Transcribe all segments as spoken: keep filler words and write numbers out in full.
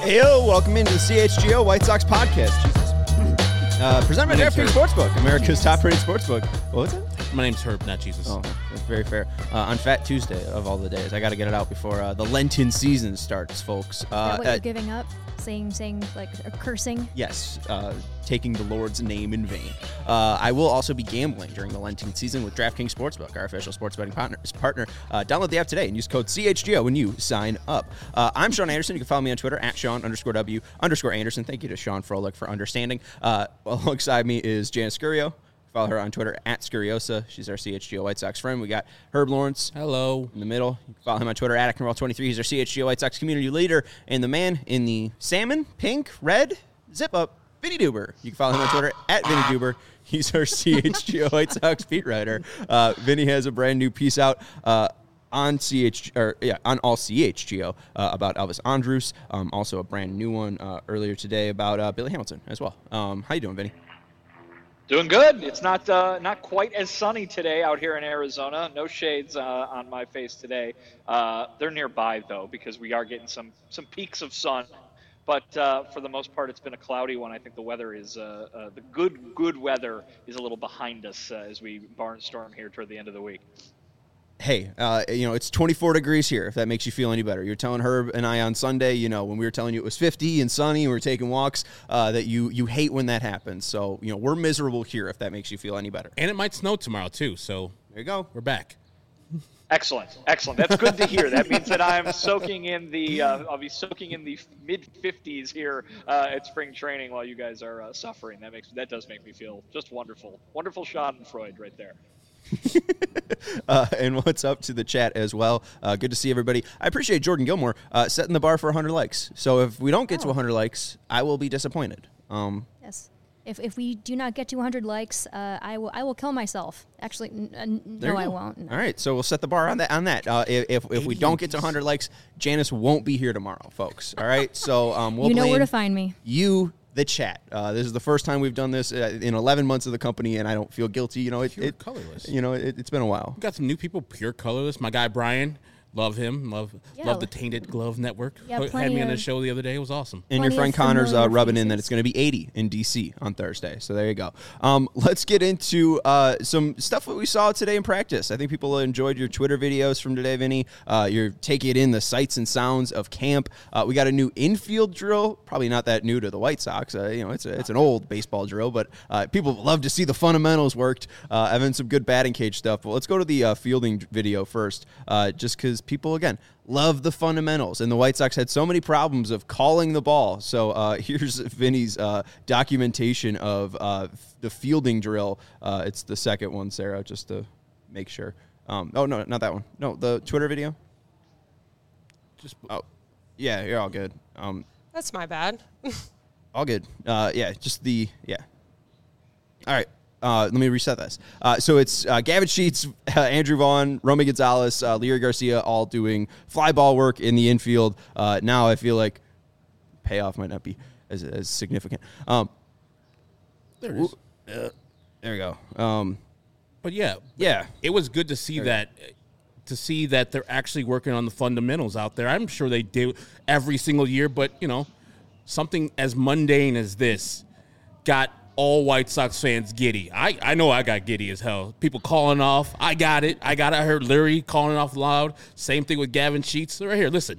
Heyo, welcome into the C H G O White Sox podcast. Jesus. Uh, presented by DraftKings Sportsbook, America's top-rated sportsbook. What was it? My name's Herb, not Jesus. Oh, that's very fair. Uh, on Fat Tuesday of all the days, I got to get it out before uh, the Lenten season starts, folks. Uh, Is that what uh, you're giving up? Saying, saying, like, uh, cursing? Yes, uh, taking the Lord's name in vain. Uh, I will also be gambling during the Lenten season with DraftKings Sportsbook, our official sports betting partner. partner. Uh, download the app today and use code C H G O when you sign up. Uh, I'm Sean Anderson. You can follow me on Twitter at Sean underscore W underscore Anderson. Thank you to Sean Froelich for understanding. Uh, alongside me is Janice Scurio. Follow her on Twitter at Scuriosa. She's our C H G O White Sox friend. We got Herb Lawrence. Hello. In the middle. You can follow him on Twitter at Acton twenty-three. He's our C H G O White Sox community leader. And the man in the salmon, pink, red, zip-up, Vinny Duber. You can follow him on Twitter at Vinny Duber. He's our C H G O White Sox beat writer. Uh, Vinny has a brand new piece out uh, on C H or yeah on all C H G O uh, about Elvis Andrus. Um, also a brand new one uh, earlier today about uh, Billy Hamilton as well. Um, how you doing, Vinny? Doing good. It's not uh, not quite as sunny today out here in Arizona. No shades uh, on my face today. Uh, they're nearby, though, because we are getting some, some peaks of sun. But uh, for the most part, it's been a cloudy one. I think the weather is uh, uh, the good good weather is a little behind us uh, as we barnstorm here toward the end of the week. Hey, uh, you know, it's twenty-four degrees here, if that makes you feel any better. You're telling Herb and I on Sunday, you know, when we were telling you it was fifty and sunny and we were taking walks, uh, that you you hate when that happens. So, you know, we're miserable here, if that makes you feel any better. And it might snow tomorrow, too, so there you go. We're back. Excellent, excellent. That's good to hear. That means that I'm soaking in the, uh, I'll be soaking in the mid fifties here uh, at spring training while you guys are uh, suffering. That makes that does make me feel just wonderful. Wonderful Schadenfreude right there. uh, and what's up to the chat as well. Uh, good to see everybody. I appreciate Jordan Gilmore uh, setting the bar for one hundred likes. So if we don't get oh. to one hundred likes, I will be disappointed. Um, yes. If if we do not get to one hundred likes, uh, I will I will kill myself. Actually, n- n- no, I won't. No. All right, so we'll set the bar on that. On that, uh, if if, if we don't get to one hundred likes, Janice won't be here tomorrow, folks. All right, so um, we'll you know blame where to find me. You. The chat. Uh, this is the first time we've done this uh, in eleven months of the company, and I don't feel guilty. You know, it, Pure it colorless. You know, it, it's been a while. We got some new people. Pure colorless. My guy Brian. Love him. Love yeah, love the Tainted Glove Network. Yeah, Had me on the of, show the other day. It was awesome. And your friend Connor's uh, rubbing in that it's going to be eighty in D C on Thursday. So there you go. Um, let's get into uh, some stuff that we saw today in practice. I think people enjoyed your Twitter videos from today, Vinny. Uh, you're taking it in the sights and sounds of camp. Uh, we got a new infield drill. Probably not that new to the White Sox. Uh, you know, it's a, it's an old baseball drill, but uh, people love to see the fundamentals worked. Uh, and then some good batting cage stuff. But let's go to the uh, fielding video first, uh, just because people, again, love the fundamentals, and the White Sox had so many problems of calling the ball. So uh, here's Vinny's uh, documentation of uh, the fielding drill. Uh, it's the second one, Sarah, just to make sure. Um, oh, no, not that one. No, the Twitter video. Just oh, yeah, you're all good. Um, That's my bad. all good. Uh, yeah, just the, yeah. All right. Uh, let me reset this. Uh, so it's uh, Gavin Sheets, uh, Andrew Vaughn, Romy Gonzalez, uh, Leury Garcia, all doing fly ball work in the infield. Uh, now I feel like payoff might not be as, as significant. Um, there it is. Uh, there we go. Um, but yeah, yeah, it was good to see that. To see that they're actually working on the fundamentals out there. I'm sure they do every single year, but you know, something as mundane as this got all White Sox fans giddy. I, I know I got giddy as hell. People calling off. I got it. I got it. I heard Leury calling off loud. Same thing with Gavin Sheets. Right here, listen.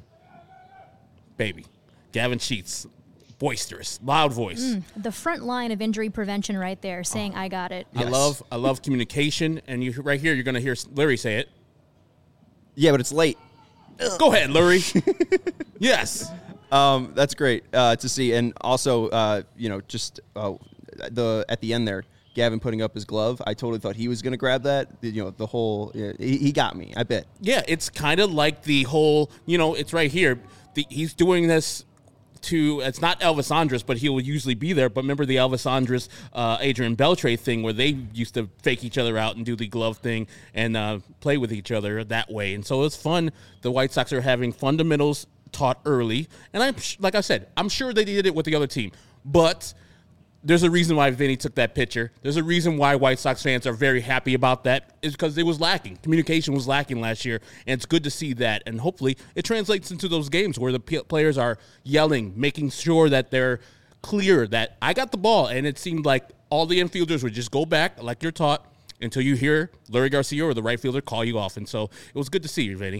Baby. Gavin Sheets. Boisterous. Loud voice. Mm, the front line of injury prevention right there saying, oh. I got it. Yes. I love I love communication. And you right here, you're going to hear Leury say it. Yeah, but it's late. Go ahead, Leury. Yes. Um, that's great uh, to see. And also, uh, you know, just uh, the at the end there, Gavin putting up his glove. I totally thought he was going to grab that. You know, the whole yeah, he, he got me. I bet. Yeah, it's kind of like the whole. You know, it's right here. The, he's doing this to. It's not Elvis Andrus, but he will usually be there. But remember the Elvis Andrus, uh, Adrian Beltre thing, where they used to fake each other out and do the glove thing and uh, play with each other that way. And so it's fun. The White Sox are having fundamentals taught early, and I'm like I said, I'm sure they did it with the other team, but there's a reason why Vinny took that picture. There's a reason why White Sox fans are very happy about that, is because it was lacking. Communication was lacking last year, and it's good to see that. And hopefully it translates into those games where the p- players are yelling, making sure that they're clear that I got the ball. And it seemed like all the infielders would just go back like you're taught until you hear Leury Garcia or the right fielder call you off. And so it was good to see you, Vinny.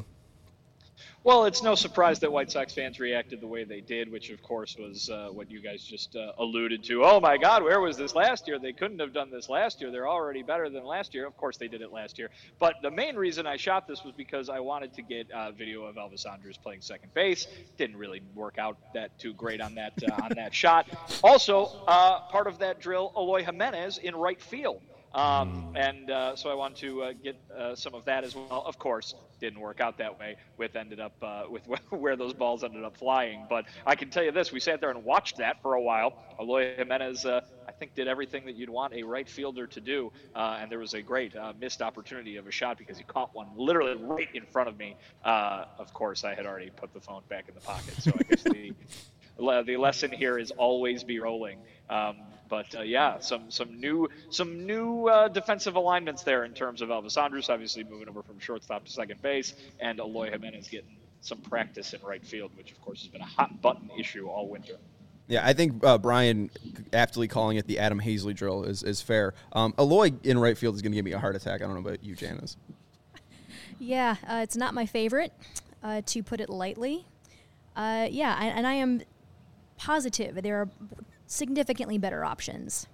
Well, it's no surprise that White Sox fans reacted the way they did, which, of course, was uh, what you guys just uh, alluded to. Oh, my God, where was this last year? They couldn't have done this last year. They're already better than last year. Of course, they did it last year. But the main reason I shot this was because I wanted to get uh, video of Elvis Andrus playing second base. Didn't really work out that too great on that uh, on that shot. Also, uh, part of that drill, Eloy Jimenez in right field. Um, and uh, so I want to uh, get uh, some of that as well. Of course, didn't work out that way with ended up uh, with where those balls ended up flying. But I can tell you this: we sat there and watched that for a while. Eloy Jimenez, uh, I think, did everything that you'd want a right fielder to do, uh, and there was a great uh, missed opportunity of a shot because he caught one literally right in front of me. Uh, of course, I had already put the phone back in the pocket, so I guess the the lesson here is always be rolling. Um, But uh, yeah, some some new some new uh, defensive alignments there in terms of Elvis Andrus, obviously moving over from shortstop to second base, and Eloy Jimenez getting some practice in right field, which of course has been a hot button issue all winter. Yeah, I think uh, Brian aptly calling it the Adam Hazley drill is is fair. Um, Eloy in right field is going to give me a heart attack. I don't know about you, Janice. Yeah, uh, it's not my favorite, uh, to put it lightly. Uh, yeah, I, and I am positive there are significantly better options.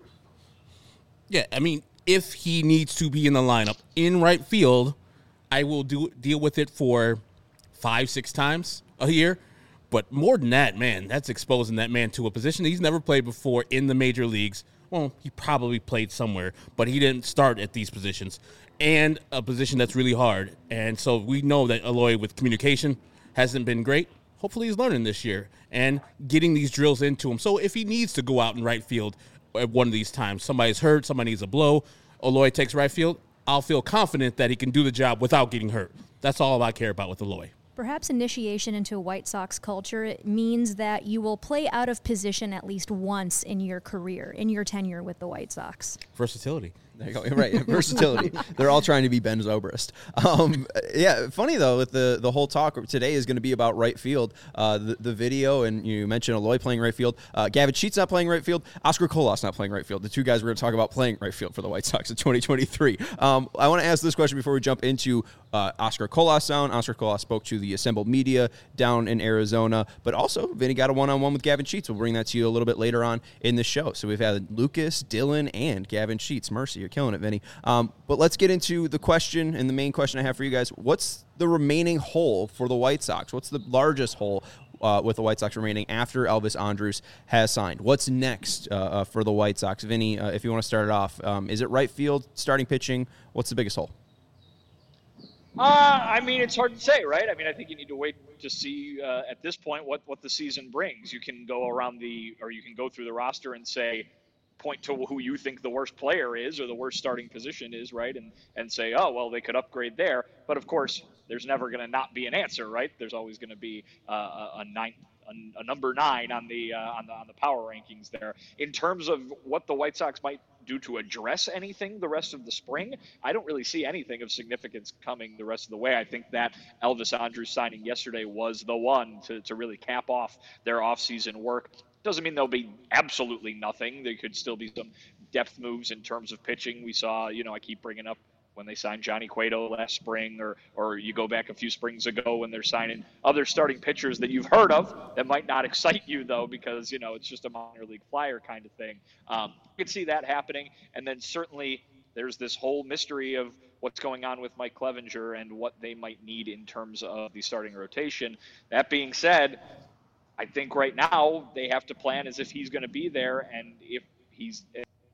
Yeah, I mean, if he needs to be in the lineup in right field, I will do deal with it for five, six times a year. But more than that, man, that's exposing that man to a position he's never played before in the major leagues. Well, he probably played somewhere, but he didn't start at these positions. And a position that's really hard. And so we know that Eloy with communication hasn't been great. Hopefully he's learning this year and getting these drills into him. So if he needs to go out in right field at one of these times, somebody's hurt, somebody needs a blow, Eloy takes right field, I'll feel confident that he can do the job without getting hurt. That's all I care about with Eloy. Perhaps initiation into White Sox culture it means that you will play out of position at least once in your career, in your tenure with the White Sox. Versatility. There you go. Right, versatility. They're all trying to be Ben Zobrist. Um, yeah, funny though, with the the whole talk today is going to be about right field. Uh, the, the video, and you mentioned Eloy playing right field. Uh, Gavin Sheets not playing right field. Oscar Colas not playing right field. The two guys we're going to talk about playing right field for the White Sox in twenty twenty-three. Um, I want to ask this question before we jump into uh, Oscar Colas sound. Oscar Colas spoke to the assembled media down in Arizona, but also Vinny got a one-on-one with Gavin Sheets. We'll bring that to you a little bit later on in the show. So we've had Lucas, Dylan, and Gavin Sheets. Mercy, you're killing it, Vinny. Um, but let's get into the question, and the main question I have for you guys. What's the remaining hole for the White Sox? What's the largest hole uh, with the White Sox remaining after Elvis Andrus has signed? What's next uh, uh, for the White Sox? Vinny, uh, if you want to start it off, um, is it right field, starting pitching? What's the biggest hole? Uh, I mean, it's hard to say, right? I mean, I think you need to wait to see uh, at this point what, what the season brings. You can go around the, or you can go through the roster and say, point to who you think the worst player is or the worst starting position is, right? And and say, oh, well, they could upgrade there. But of course, there's never going to not be an answer, right? There's always going to be uh, a, a nine, a, a number nine on the, uh, on the on the power rankings there. In terms of what the White Sox might do to address anything the rest of the spring, I don't really see anything of significance coming the rest of the way. I think that Elvis Andrus signing yesterday was the one to, to really cap off their offseason work. Doesn't mean there'll be absolutely nothing. There could still be some depth moves in terms of pitching. We saw, you know, I keep bringing up when they signed Johnny Cueto last spring, or or you go back a few springs ago when they're signing other starting pitchers that you've heard of that might not excite you, though, because, you know, it's just a minor league flyer kind of thing. Um, you could see that happening. And then certainly there's this whole mystery of what's going on with Mike Clevenger and what they might need in terms of the starting rotation. That being said, I think right now they have to plan as if he's going to be there, and if he's.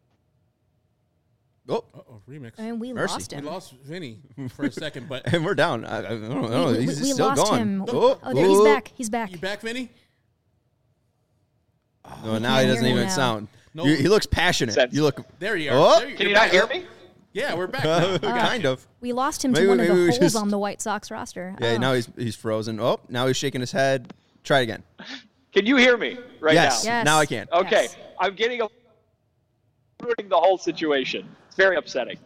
Oh, Uh-oh, remix. And we Mercy. lost him. We lost Vinny for a second, but and we're down. I, I don't know. We, we, He's we still lost going. him. Oh, Oh, there, he's oh. back. He's back. you back, Vinny? No, now can't he doesn't hear him even now. sound. No. You, he looks passionate. Sense. You look There you are. Oh. There Can you you're not back. hear me? Yeah, we're back now. We got kind you. of. We lost him Maybe- to one of maybe the we holes just- on the White Sox roster. Yeah, Oh. now he's he's frozen. Oh, now he's shaking his head. Try it again. Can you hear me right yes. now? Yes. Now I can. Okay, Yes. I'm getting a ruining the whole situation. It's very upsetting.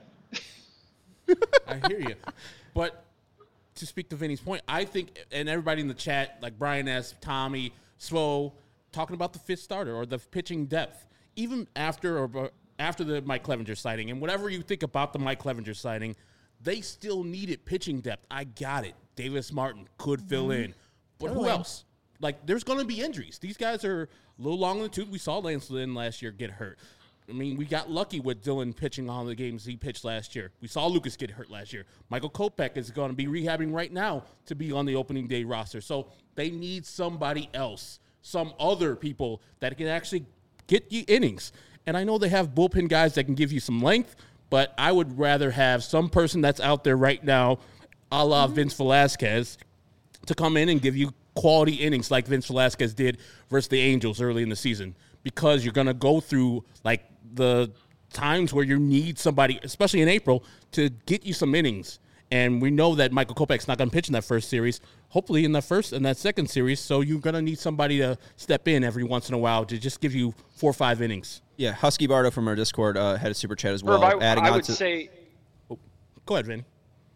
I hear you. But to speak to Vinny's point, I think, and everybody in the chat, like Brian S., Tommy, Svo, talking about the fifth starter or the pitching depth, even after or after the Mike Clevenger sighting, and whatever you think about the Mike Clevenger sighting, they still needed pitching depth. I got it. Davis Martin could fill mm-hmm. in. But totally. Who else? Like, there's going to be injuries. These guys are a little long in the tooth. We saw Lance Lynn last year get hurt. I mean, we got lucky with Dylan pitching all the games he pitched last year. We saw Lucas get hurt last year. Michael Kopech is going to be rehabbing right now to be on the opening day roster. So they need somebody else, some other people that can actually get you innings. And I know they have bullpen guys that can give you some length, but I would rather have some person that's out there right now, a la mm-hmm. Vince Velasquez, to come in and give you quality innings like Vince Velasquez did versus the Angels early in the season, because you're going to go through like the times where you need somebody, especially in April, to get you some innings. And we know that Michael Kopech's not going to pitch in that first series, hopefully in the first and that second series. So you're going to need somebody to step in every once in a while to just give you four or five innings. Yeah, Husky Bardo from our Discord uh, had a super chat as well. Herb, I, adding I on would to... say... Oh, go ahead, Vin.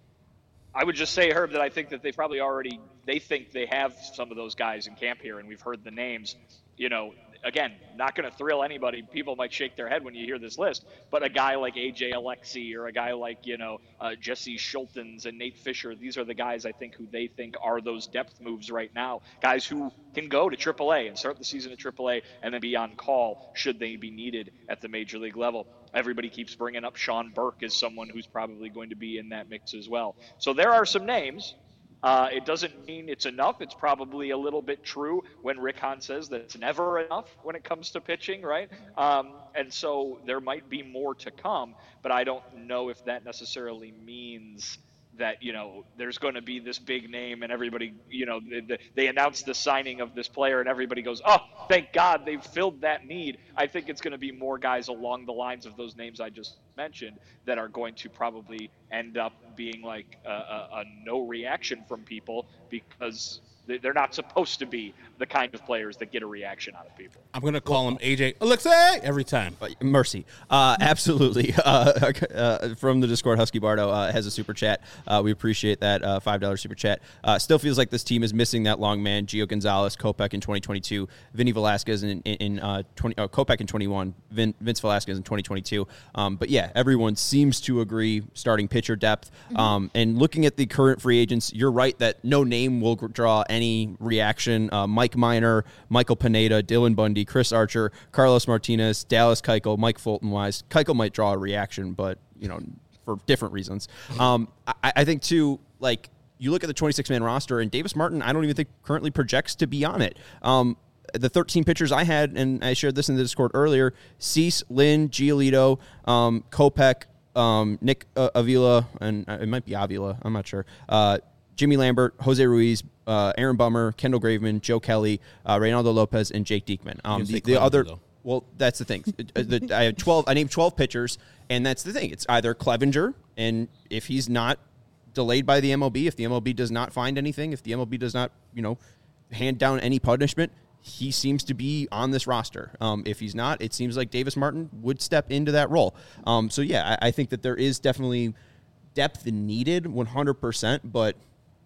I would just say, Herb, that I think that they probably already, they think they have some of those guys in camp here, and we've heard the names. You know, again, not going to thrill anybody. People might shake their head when you hear this list, but a guy like A J Alexy or a guy like, you know, uh, Jesse Schultens and Nate Fisher, these are the guys I think who they think are those depth moves right now. Guys who can go to triple A and start the season at triple A and then be on call should they be needed at the major league level. Everybody keeps bringing up Sean Burke as someone who's probably going to be in that mix as well. So there are some names. Uh, it doesn't mean it's enough. It's probably a little bit true when Rick Hahn says that it's never enough when it comes to pitching, right? Um, and so there might be more to come, but I don't know if that necessarily means that, you know, there's going to be this big name and everybody, you know, they, they announce the signing of this player and everybody goes, oh, thank God they've filled that need. I think it's going to be more guys along the lines of those names I just mentioned that are going to probably end up being like a, a, a no reaction from people because they're not supposed to be the kind of players that get a reaction out of people. I'm going to call him A J Alexei every time. Mercy. Uh, absolutely. Uh, uh, from the Discord, Husky Bardo uh, has a super chat. Uh, we appreciate that uh, five dollars super chat. Uh, still feels like this team is missing that long man, Gio Gonzalez, Kopech in twenty twenty-two, Vinny Velasquez in, in, in uh, twenty, uh, Kopech in twenty-one, Vin, Vince Velasquez in twenty twenty-two. Um, but yeah, everyone seems to agree starting pitcher depth. Mm-hmm. Um, and looking at the current free agents, you're right that no name will draw any reaction. Uh, Mike Minor, Michael Pineda, Dylan Bundy, Chris Archer, Carlos Martinez, Dallas Keuchel, Mike Fulton-Wise. Keuchel might draw a reaction, but, you know, for different reasons. Um, I, I think, too, like, you look at the twenty-six man roster, and Davis Martin, I don't even think currently projects to be on it. Um, the thirteen pitchers I had, and I shared this in the Discord earlier, Cease, Lynn, Giolito, um, Kopech, um, Nick uh, Avila, and it might be Avila, I'm not sure, uh, Jimmy Lambert, Jose Ruiz, uh, Aaron Bummer, Kendall Graveman, Joe Kelly, uh, Reynaldo Lopez, and Jake Diekman. Um, the, the other, though. Well, that's the thing. the, I have twelve. I named twelve pitchers, and that's the thing. It's either Clevenger, and if he's not delayed by the M L B, if the M L B does not find anything, if the M L B does not, you know, hand down any punishment, he seems to be on this roster. Um, if he's not, it seems like Davis Martin would step into that role. Um, so yeah, I, I think that there is definitely depth needed, one hundred percent, but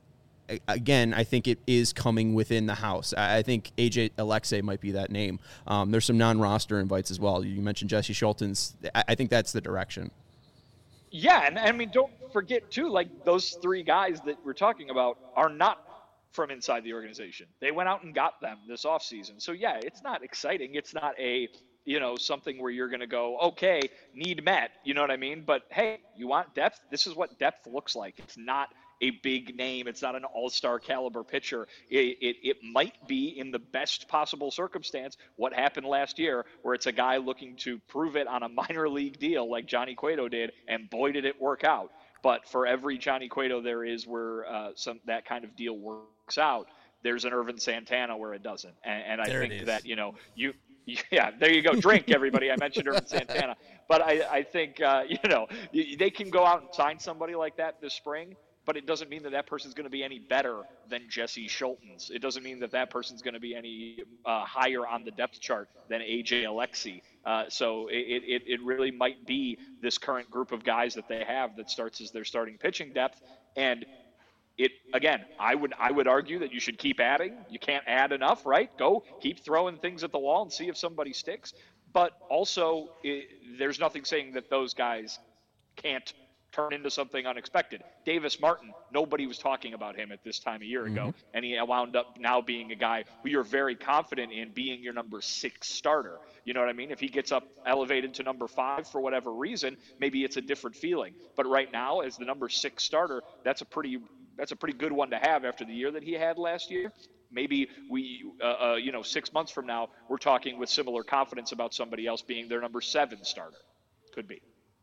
again, I think it is coming within the house. I think A J Alexei might be that name. Um, there's some non-roster invites as well. You mentioned Jesse Schultens. I think that's the direction. Yeah, and I mean, don't forget, too, like those three guys that we're talking about are not from inside the organization. They went out and got them this offseason. So, yeah, it's not exciting. It's not a, you know, something where you're going to go, okay, need met. You know what I mean? But, hey, you want depth? This is what depth looks like. It's not a big name. It's not an all-star caliber pitcher. It, it, it might be, in the best possible circumstance, what happened last year, where it's a guy looking to prove it on a minor league deal like Johnny Cueto did, and boy, did it work out. But for every Johnny Cueto there is where uh, some that kind of deal works out, there's an Irvin Santana where it doesn't. And, and I there think that, you know, you yeah, there you go. Drink, everybody. I mentioned Irvin Santana. But I, I think, uh, you know, they can go out and sign somebody like that this spring, but it doesn't mean that that person's going to be any better than Jesse Schultens. It doesn't mean that that person's going to be any uh, higher on the depth chart than A J Alexy. Uh, Uh, so it, it, it really might be this current group of guys that they have that starts as their starting pitching depth. And it, again, I would I would argue that you should keep adding. You can't add enough, right? Go keep throwing things at the wall and see if somebody sticks. But also, it, there's nothing saying that those guys can't turn into something unexpected. Davis Martin, nobody was talking about him at this time a year ago, mm-hmm. and he wound up now being a guy who you're very confident in being your number six starter. You know what I mean? If he gets up elevated to number five for whatever reason, maybe it's a different feeling. But right now, as the number six starter, that's a pretty that's a pretty good one to have after the year that he had last year. Maybe we, uh, uh, you know, six months from now, we're talking with similar confidence about somebody else being their number seven starter. Could be.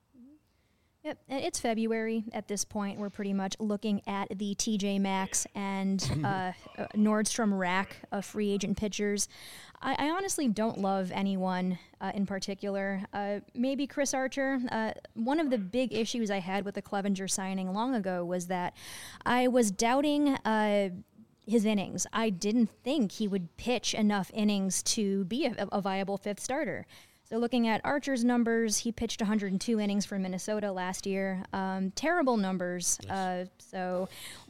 Yep, and it's February at this point. We're pretty much looking at the T J Maxx and uh, Nordstrom rack of free agent pitchers. I, I honestly don't love anyone uh, in particular. Uh, maybe Chris Archer. Uh, one of the big issues I had with the Clevenger signing long ago was that I was doubting uh, his innings. I didn't think he would pitch enough innings to be a, a viable fifth starter. So looking at Archer's numbers, he pitched one hundred two innings for Minnesota last year. Um, terrible numbers. Yes. Uh, so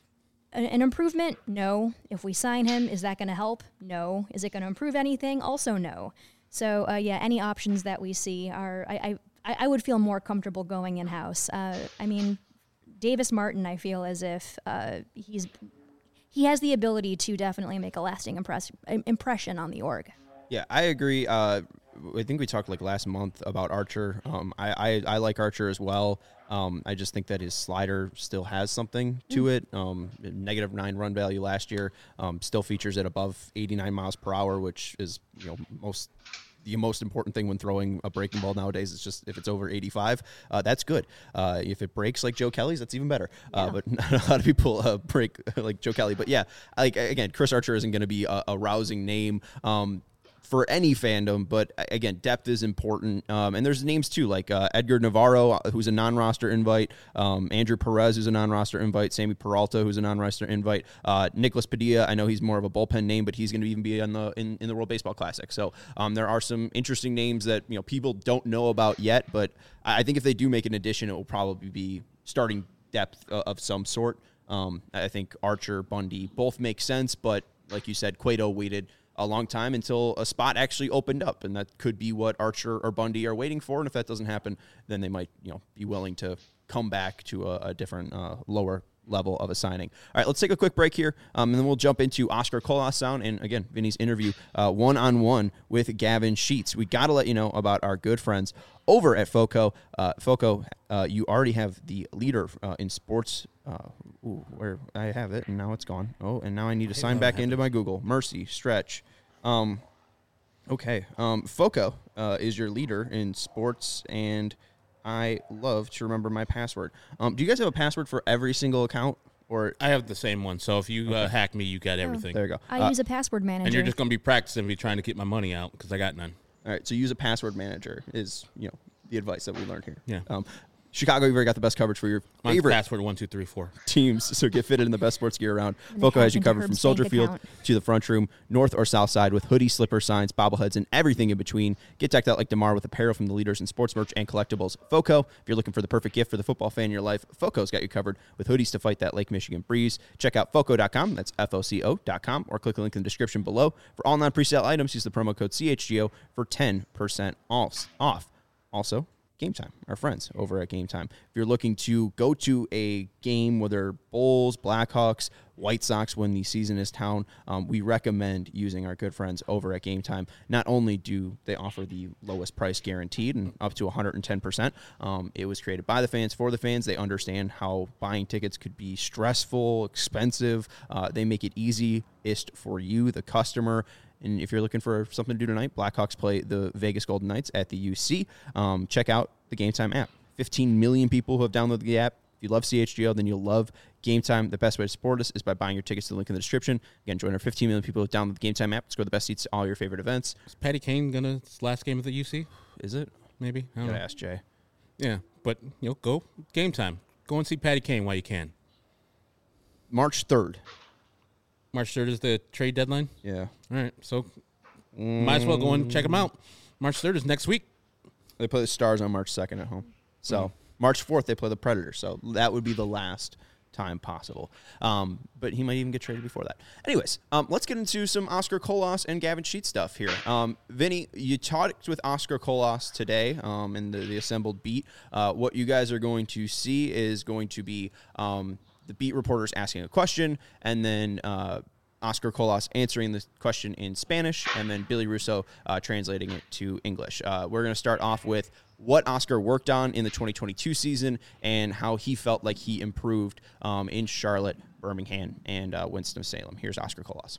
an, an improvement? No. If we sign him, is that going to help? No. Is it going to improve anything? Also no. So, uh, yeah, any options that we see are I, I, I would feel more comfortable going in-house. Uh, I mean, Davis Martin, I feel as if uh, he's he has the ability to definitely make a lasting impress, impression on the org. Yeah, I agree. Uh, I think we talked like last month about Archer. Um, I, I, I like Archer as well. Um, I just think that his slider still has something to mm. it. Um, negative nine run value last year. Um, still features at above eighty-nine miles per hour, which is you know most the most important thing when throwing a breaking ball nowadays. Is just if it's over eighty-five, uh, that's good. Uh, if it breaks like Joe Kelly's, that's even better. Yeah. Uh, but not a lot of people uh, break like Joe Kelly. But yeah, like again, Chris Archer isn't going to be a, a rousing name. Um, for any fandom, but again, depth is important. Um, and there's names too, like uh, Edgar Navarro, who's a non-roster invite, um, Andrew Perez, who's a non-roster invite, Sammy Peralta, who's a non-roster invite, uh, Nicholas Padilla. I know he's more of a bullpen name, but he's going to even be on the in, in the World Baseball Classic. So um, there are some interesting names that you know people don't know about yet, but I think if they do make an addition, it will probably be starting depth uh, of some sort. Um, I think Archer, Bundy, both make sense, but like you said, Cueto waited a long time until a spot actually opened up, and that could be what Archer or Bundy are waiting for. And if that doesn't happen, then they might, you know, be willing to come back to a, a different, uh, lower level of a signing. All right, let's take a quick break here, um, and then we'll jump into Oscar Colasound and again Vinny's interview uh, one-on-one with Gavin Sheets. We got to let you know about our good friends over at FOCO. Uh, FOCO, uh, you already have the leader uh, in sports. Uh, ooh, where I have it, and now it's gone. Oh, and now I need to sign back into my Google. Mercy, stretch. Um, okay, um, FOCO uh, is your leader in sports, and I love to remember my password. Um, do you guys have a password for every single account? Or I have the same one, so if you okay. uh, hack me, you got everything. There you go. I uh, use a password manager. And you're just going to be practicing me trying to get my money out because I got none. All right, so use a password manager is, you know, the advice that we learned here. Yeah. Um, Chicago, you've already got the best coverage for your Mine's favorite password one two three four teams. So get fitted in the best sports gear around. FOCO has you covered from Soldier Field account. to the front room, north or south side, with hoodies, slipper signs, bobbleheads, and everything in between. Get decked out like DeMar with apparel from the leaders in sports merch and collectibles. FOCO, if you're looking for the perfect gift for the football fan in your life, FOCO's got you covered with hoodies to fight that Lake Michigan breeze. Check out foco dot com. That's F O C O dot com, or click the link in the description below. For all non-presale items, use the promo code C H G O for ten percent off. Also, Game Time, our friends over at Game Time. If you're looking to go to a game, whether Bulls, Blackhawks, White Sox, when the season is down, um, we recommend using our good friends over at Game Time. Not only do they offer the lowest price guaranteed and up to one hundred ten percent, um, it was created by the fans for the fans. They understand how buying tickets could be stressful, expensive. Uh, they make it easiest for you, the customer. And if you're looking for something to do tonight, Blackhawks play the Vegas Golden Knights at the U C. Um, check out the Game Time app. fifteen million people who have downloaded the app. If you love C H G O, then you'll love Game Time. The best way to support us is by buying your tickets to the link in the description. Again, join our fifteen million people who download the Game Time app. Score the best seats to all your favorite events. Is Patty Kane going to last game of the U C? Is it? Maybe. I don't Gotta know. ask Jay. Yeah, but you know, go Game Time. Go and see Patty Kane while you can. March third. March third is the trade deadline? Yeah. All right, so might as well go and check them out. March third is next week. They play the Stars on March second at home. So mm-hmm. March fourth, they play the Predators. So that would be the last time possible. Um, but he might even get traded before that. Anyways, um, let's get into some Oscar Colas and Gavin Sheets stuff here. Um, Vinny, you talked with Oscar Colas today um, in the, the assembled beat. Uh, what you guys are going to see is going to be um, the beat reporters asking a question, and then uh, Oscar Colas answering the question in Spanish, and then Billy Russo uh, translating it to English. Uh, we're going to start off with what Oscar worked on in the twenty twenty-two season and how he felt like he improved um, in Charlotte, Birmingham, and uh, Winston-Salem. Here's Oscar Colas.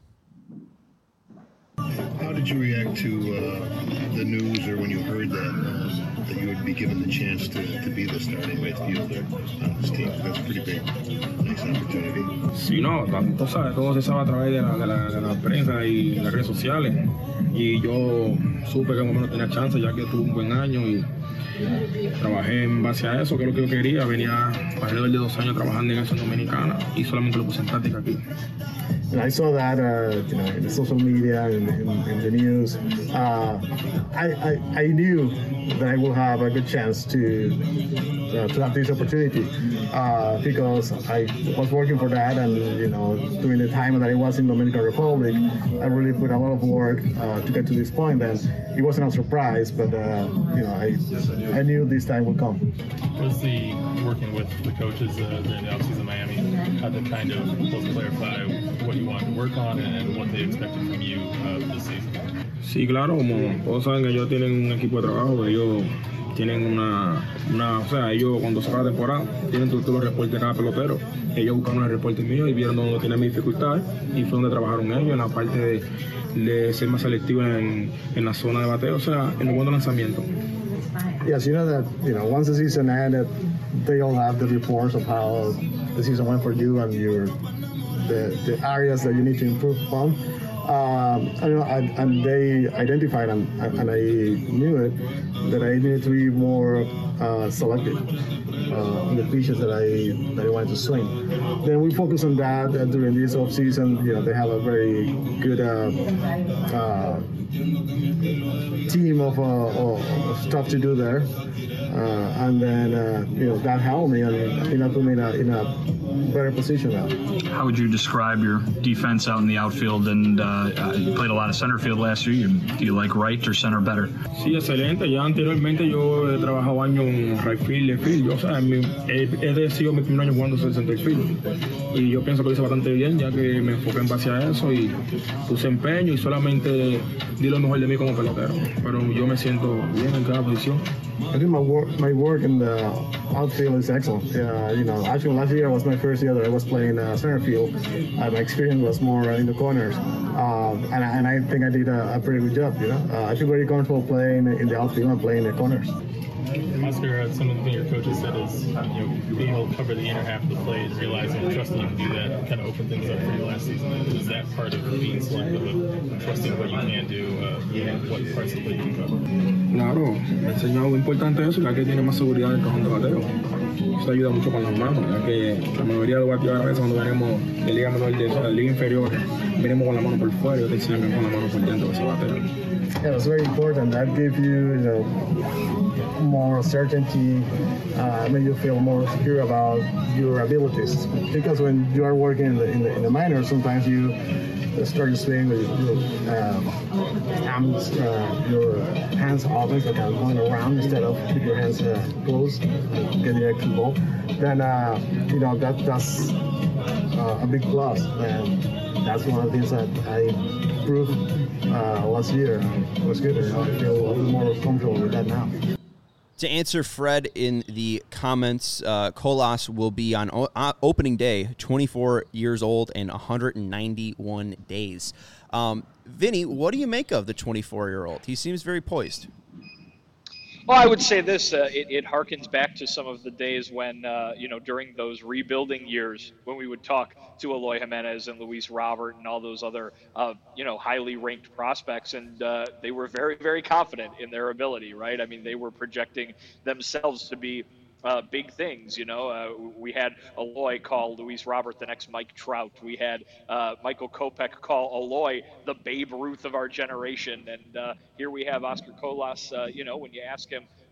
How did you react to uh, the news, or when you heard that uh, that you would be given the chance to, to be the starting midfielder on this team? That's a pretty big, nice opportunity. Sí, no, tanto, ¿sabes? Todo se sabe a través de la, de, la, de la prensa y las redes sociales. Y yo supe que más o menos tenía chance, ya que tuve un buen año y trabajé en base a eso, que es lo que yo quería. Venía alrededor de dos años trabajando en eso en Dominicana y solamente lo puse en práctica aquí. And I saw that, uh, you know, in the social media and in, in, in the news. Uh, I, I I knew that I will have a good chance to uh, to have this opportunity uh, because I was working for that, and you know, during the time that I was in Dominican Republic, I really put a lot of work uh, to get to this point. And it wasn't a surprise, but uh, you know, I I knew this time would come. Was the working with the coaches uh, during the offseason in Miami, how to kind of both clarify what you wanted to work on and what they expected from you uh, this season? Sí, claro, como todos saben que ellos tienen un equipo de trabajo, ellos tienen una, una, o sea, ellos cuando se acaba la temporada tienen todos los reportes de cada pelotero. Ellos buscaron el reporte mío y vieron dónde tienen mis dificultades y fue donde trabajaron ellos en la parte de, de ser más selectivo en, en la zona de bateo, o sea, en el buen lanzamiento. Yes, you know that, you know, once the season ended, they all have the reports of how the season went for you and your the, the areas that you need to improve on. Um, I know, and, and they identified, and, and I knew it, that I needed to be more uh, selective uh, in the pitches that I that I wanted to swing. Then we focus on that uh, during this off season. You know, they have a very good uh, uh, team of, uh, of stuff to do there, uh, and then uh, you know that helped me, and I think that put me in a, in a better position now. How would you describe your defense out in the outfield? And uh, you played a lot of center field last year. Do you like right or center better? Sí, excelente. Ya anteriormente yo he trabajado años en right field, left field. Yo, o sea, mi, he, he sido mi primer año jugando en center field. Y yo pienso que lo hice bastante bien, ya que me enfoqué en base a eso y puse empeño y solamente di lo mejor de mí como pelotero. Pero yo me siento bien en cada posición. I think my work, my work in the outfield is excellent. Uh, you know, actually last year was my first year that I was playing uh, center field. Uh, my experience was more in the corners, uh, and, I, and I think I did a, a pretty good job. You know, uh, I feel very comfortable playing in the outfield and playing in the corners. Oscar, uh, some of the things your coaches said is, you know, being able to cover the inner half of the plate and realizing and trusting you to do that kind of opened things up for you last season. Is that part of being selective of trusting what you can do, uh, and what parts of the plate you can cover? Claro, me enseñó algo importante eso, ya que tiene más seguridad en el cajón de bateo. Eso ayuda mucho con las manos, ya que la mayoría de los bateadores a veces cuando venimos de liga menor de, de liga inferior, venimos con la mano por fuera y yo te enseño con la mano por dentro que se batea. Yeah, it's very important. That gives you, you know, more certainty, uh, make you feel more secure about your abilities. Because when you are working in the in the, in the minors, sometimes you start to swing with your um, hands, uh, your hands open, so kind of going around instead of keep your hands uh, closed, and get the extra ball. Then uh, you know that that's uh, a big plus, and that's one of the things that I proved uh, last year. It was good. You know, I feel a little more comfortable with that now. To answer Fred in the comments, uh, Colas will be on o- uh, opening day, twenty-four years old and one hundred ninety-one days. Um, Vinny, what do you make of the twenty-four-year-old? He seems very poised. Well, I would say this, uh, it, it harkens back to some of the days when, uh, you know, during those rebuilding years when we would talk to Eloy Jimenez and Luis Robert and all those other, uh, you know, highly ranked prospects. And uh, they were very, very confident in their ability, right? I mean, they were projecting themselves to be Uh, big things, you know. Uh, we had Eloy call Luis Robert the next Mike Trout. We had uh, Michael Kopech call Eloy the Babe Ruth of our generation. And uh, here we have Oscar Colas. Uh, you know, when you ask him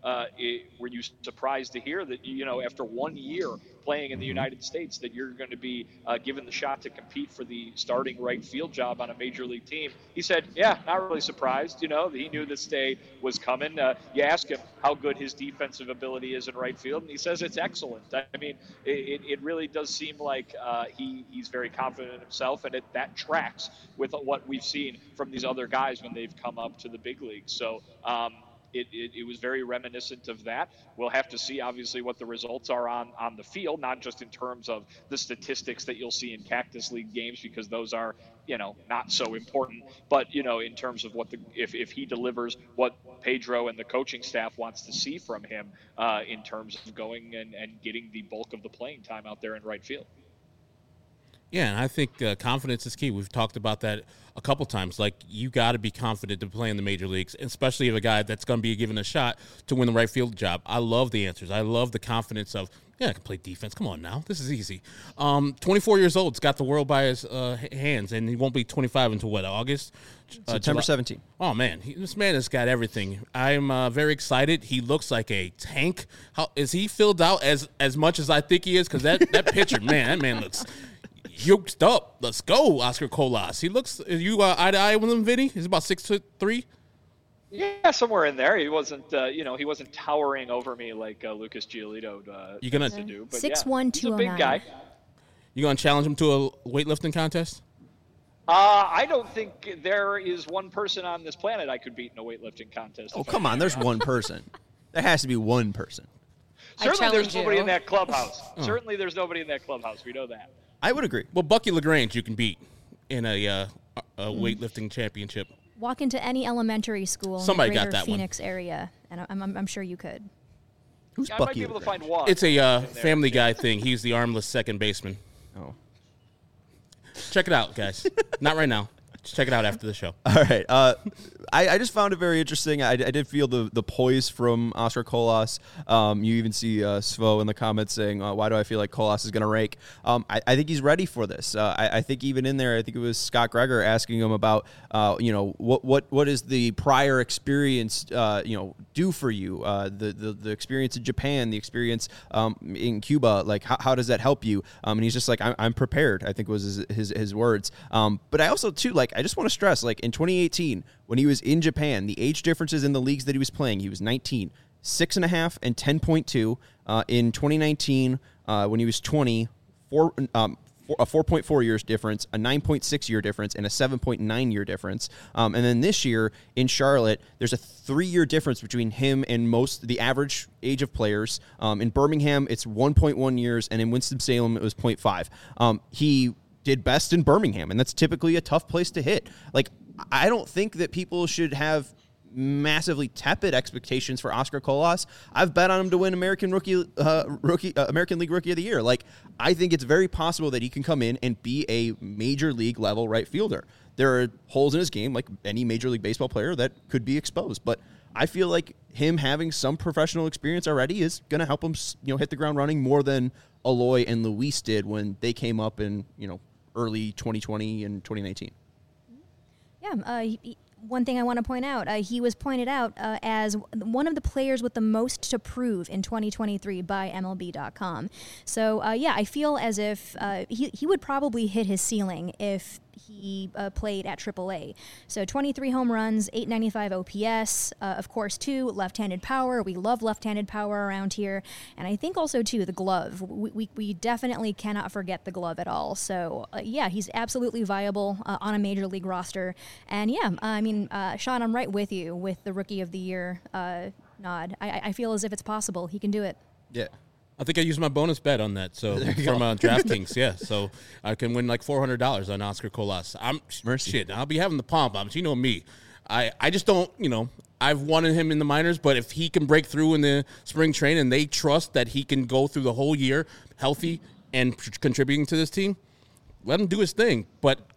uh, it, were you surprised to hear that, you know, after one year playing in the United States, that you're going to be uh, given the shot to compete for the starting right field job on a major league team? He said, yeah, not really surprised. You know, he knew this day was coming. Uh, you ask him how good his defensive ability is in right field, and he says it's excellent. I mean, it, it really does seem like uh, he, he's very confident in himself, and it, that tracks with what we've seen from these other guys when they've come up to the big leagues. So, um, It, it, it was very reminiscent of that. We'll have to see, obviously, what the results are on, on the field, not just in terms of the statistics that you'll see in Cactus League games, because those are, you know, not so important. But, you know, in terms of what the if, if he delivers what Pedro and the coaching staff wants to see from him uh, in terms of going and, and getting the bulk of the playing time out there in right field. Yeah, and I think uh, confidence is key. We've talked about that a couple times. Like, you got to be confident to play in the major leagues, especially if a guy that's going to be given a shot to win the right field job. I love the answers. I love the confidence of, yeah, I can play defense. Come on now. This is easy. Um, twenty-four years old. He's got the world by his uh, hands, and he won't be twenty-five until, what, August? Uh, September seventeenth. Oh, man. He, this man has got everything. I'm uh, very excited. He looks like a tank. How is he filled out as, as much as I think he is? Because that, that pitcher, man, that man looks – yoked up. Let's go, Oscar Colas. He looks. Are you uh, eye to eye with him, Vinny? He's about six foot three. Yeah, somewhere in there. He wasn't. Uh, you know, he wasn't towering over me like uh, Lucas Giolito uh, you gonna to do. But six yeah, one he's two a oh big nine. guy. You gonna challenge him to a weightlifting contest? Uh, I don't think there is one person on this planet I could beat in a weightlifting contest. Oh, come on. There's one person. There has to be one person. Certainly, there's nobody you. in that clubhouse. Oh. Certainly, there's nobody in that clubhouse. We know that. I would agree. Well, Bucky LaGrange you can beat in a, uh, a weightlifting championship. Walk into any elementary school Somebody in the got greater that one. Phoenix area, and I'm, I'm, I'm sure you could. Who's Yeah, I Bucky? might be able to LaGrange? find one. It's a uh, Family Guy thing. He's the armless second baseman. Oh. Check it out, guys. Not right now. Just check it out after the show. All right. Uh, I, I just found it very interesting. I, I did feel the, the poise from Oscar Colas. Um, you even see uh, Svo in the comments saying, uh, why do I feel like Colas is going to rake? Um, I, I think he's ready for this. Uh, I, I think even in there, I think it was Scott Gregor asking him about, uh, you know, what what what is the prior experience, uh, you know, do for you? Uh, the, the the experience in Japan, the experience um, in Cuba, like how, how does that help you? Um, and he's just like, I'm, I'm prepared, I think was his his, his words. Um, but I also, too, like, I just want to stress, like, in twenty eighteen, when he was in Japan, the age differences in the leagues that he was playing, he was nineteen, six and a half and ten point two. Uh, in twenty nineteen, uh, when he was twenty, four, um, four, a four point four years difference, a nine point six year difference, and a seven point nine year difference. Um, and then this year in Charlotte, there's a three year difference between him and most the average age of players. Um, in Birmingham, it's one point one years, and in Winston-Salem, it was zero point five. Um, he did best in Birmingham, and that's typically a tough place to hit. Like, I don't think that people should have massively tepid expectations for Oscar Colas. I've bet on him to win American Rookie, uh, Rookie, uh, American League Rookie of the Year. Like, I think it's very possible that he can come in and be a major league level right fielder. There are holes in his game, like any Major League Baseball player, that could be exposed. But I feel like him having some professional experience already is going to help him, you know, hit the ground running more than Eloy and Luis did when they came up in, you know, early twenty twenty and twenty nineteen. Yeah, uh, he, he- one thing I want to point out, uh, he was pointed out uh, as one of the players with the most to prove in twenty twenty-three by M L B dot com. So, uh, yeah, I feel as if uh, he, he would probably hit his ceiling if he uh, played at triple A. So twenty-three home runs, eight ninety-five O P S, uh, of course, too, left-handed power. We love left-handed power around here. And I think also, too, the glove. We, we, we definitely cannot forget the glove at all. So, uh, yeah, he's absolutely viable uh, on a major league roster. And, yeah, I mean, uh, Sean, I'm right with you with the Rookie of the Year uh, nod. I, I feel as if it's possible. He can do it. Yeah. I think I used my bonus bet on that. So from uh, DraftKings, yeah. So I can win like four hundred dollars on Oscar Colas. I'm Mercy. shit. I'll be having the pom poms. You know me. I, I just don't. You know, I've wanted him in the minors, but if he can break through in the spring train and they trust that he can go through the whole year healthy and p- contributing to this team, let him do his thing. But I don't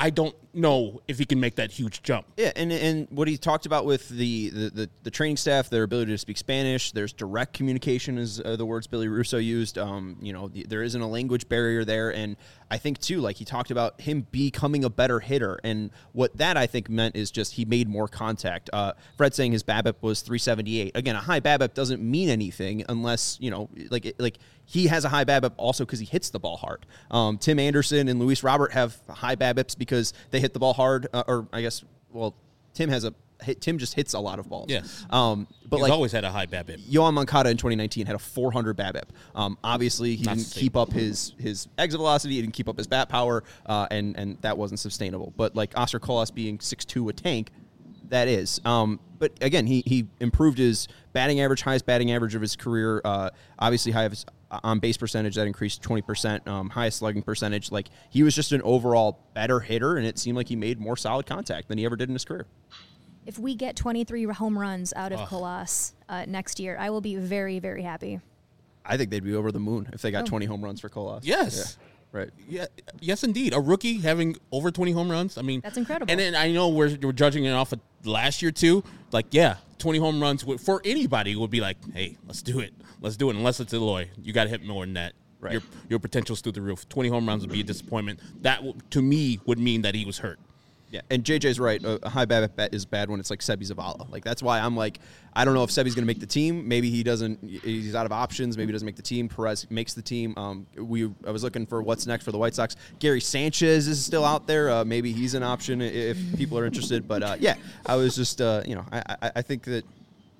know if he can make that huge jump. Yeah, and and what he talked about with the, the, the, the training staff, their ability to speak Spanish, there's direct communication is uh, the words Billy Russo used. Um, you know, the, there isn't a language barrier there, and I think, too, like he talked about him becoming a better hitter, and what that, I think, meant is just he made more contact. Uh, Fred saying his BABIP was three seventy-eight. Again, a high BABIP doesn't mean anything unless, you know, like like he has a high BABIP also because he hits the ball hard. Um, Tim Anderson and Luis Robert have high BABIPs because they hit the ball hard, uh, or I guess, well, Tim has a Tim just hits a lot of balls. Yes. Um, but He's like always had a high BABIP. Yohan Moncada in twenty nineteen had a four hundred BABIP. Um, obviously, he Not didn't keep up his his exit velocity. He didn't keep up his bat power, uh, and and that wasn't sustainable. But like Oscar Colas being six two a tank, that is. Um, but again, he he improved his batting average, highest batting average of his career. Uh, obviously, high on base percentage that increased twenty percent. Um, highest slugging percentage. Like he was just an overall better hitter, and it seemed like he made more solid contact than he ever did in his career. If we get twenty-three home runs out of Oh. Colas uh, next year, I will be very, very happy. I think they'd be over the moon if they got Oh. twenty home runs for Colas. Yes. Yeah, right. Yeah, yes, indeed. A rookie having over twenty home runs. I mean, That's incredible. And then I know we're, we're judging it off of last year too. Like, yeah, twenty home runs would, for anybody would be like, hey, let's do it. Let's do it. Unless it's Eloy, you got to hit more than that. Right. Your your potential's through the roof. twenty home runs would be a disappointment. That w- to me would mean that he was hurt. Yeah, and J J's right. A a high BABIP bet is bad when it's like Sebi Zavala. Like that's why I'm like, I don't know if Sebi's going to make the team. Maybe he doesn't. He's out of options. Maybe he doesn't make the team. Perez makes the team. Um, we I was looking for what's next for the White Sox. Gary Sanchez is still out there. Uh, maybe he's an option if people are interested. But uh, yeah, I was just uh, you know I, I I think that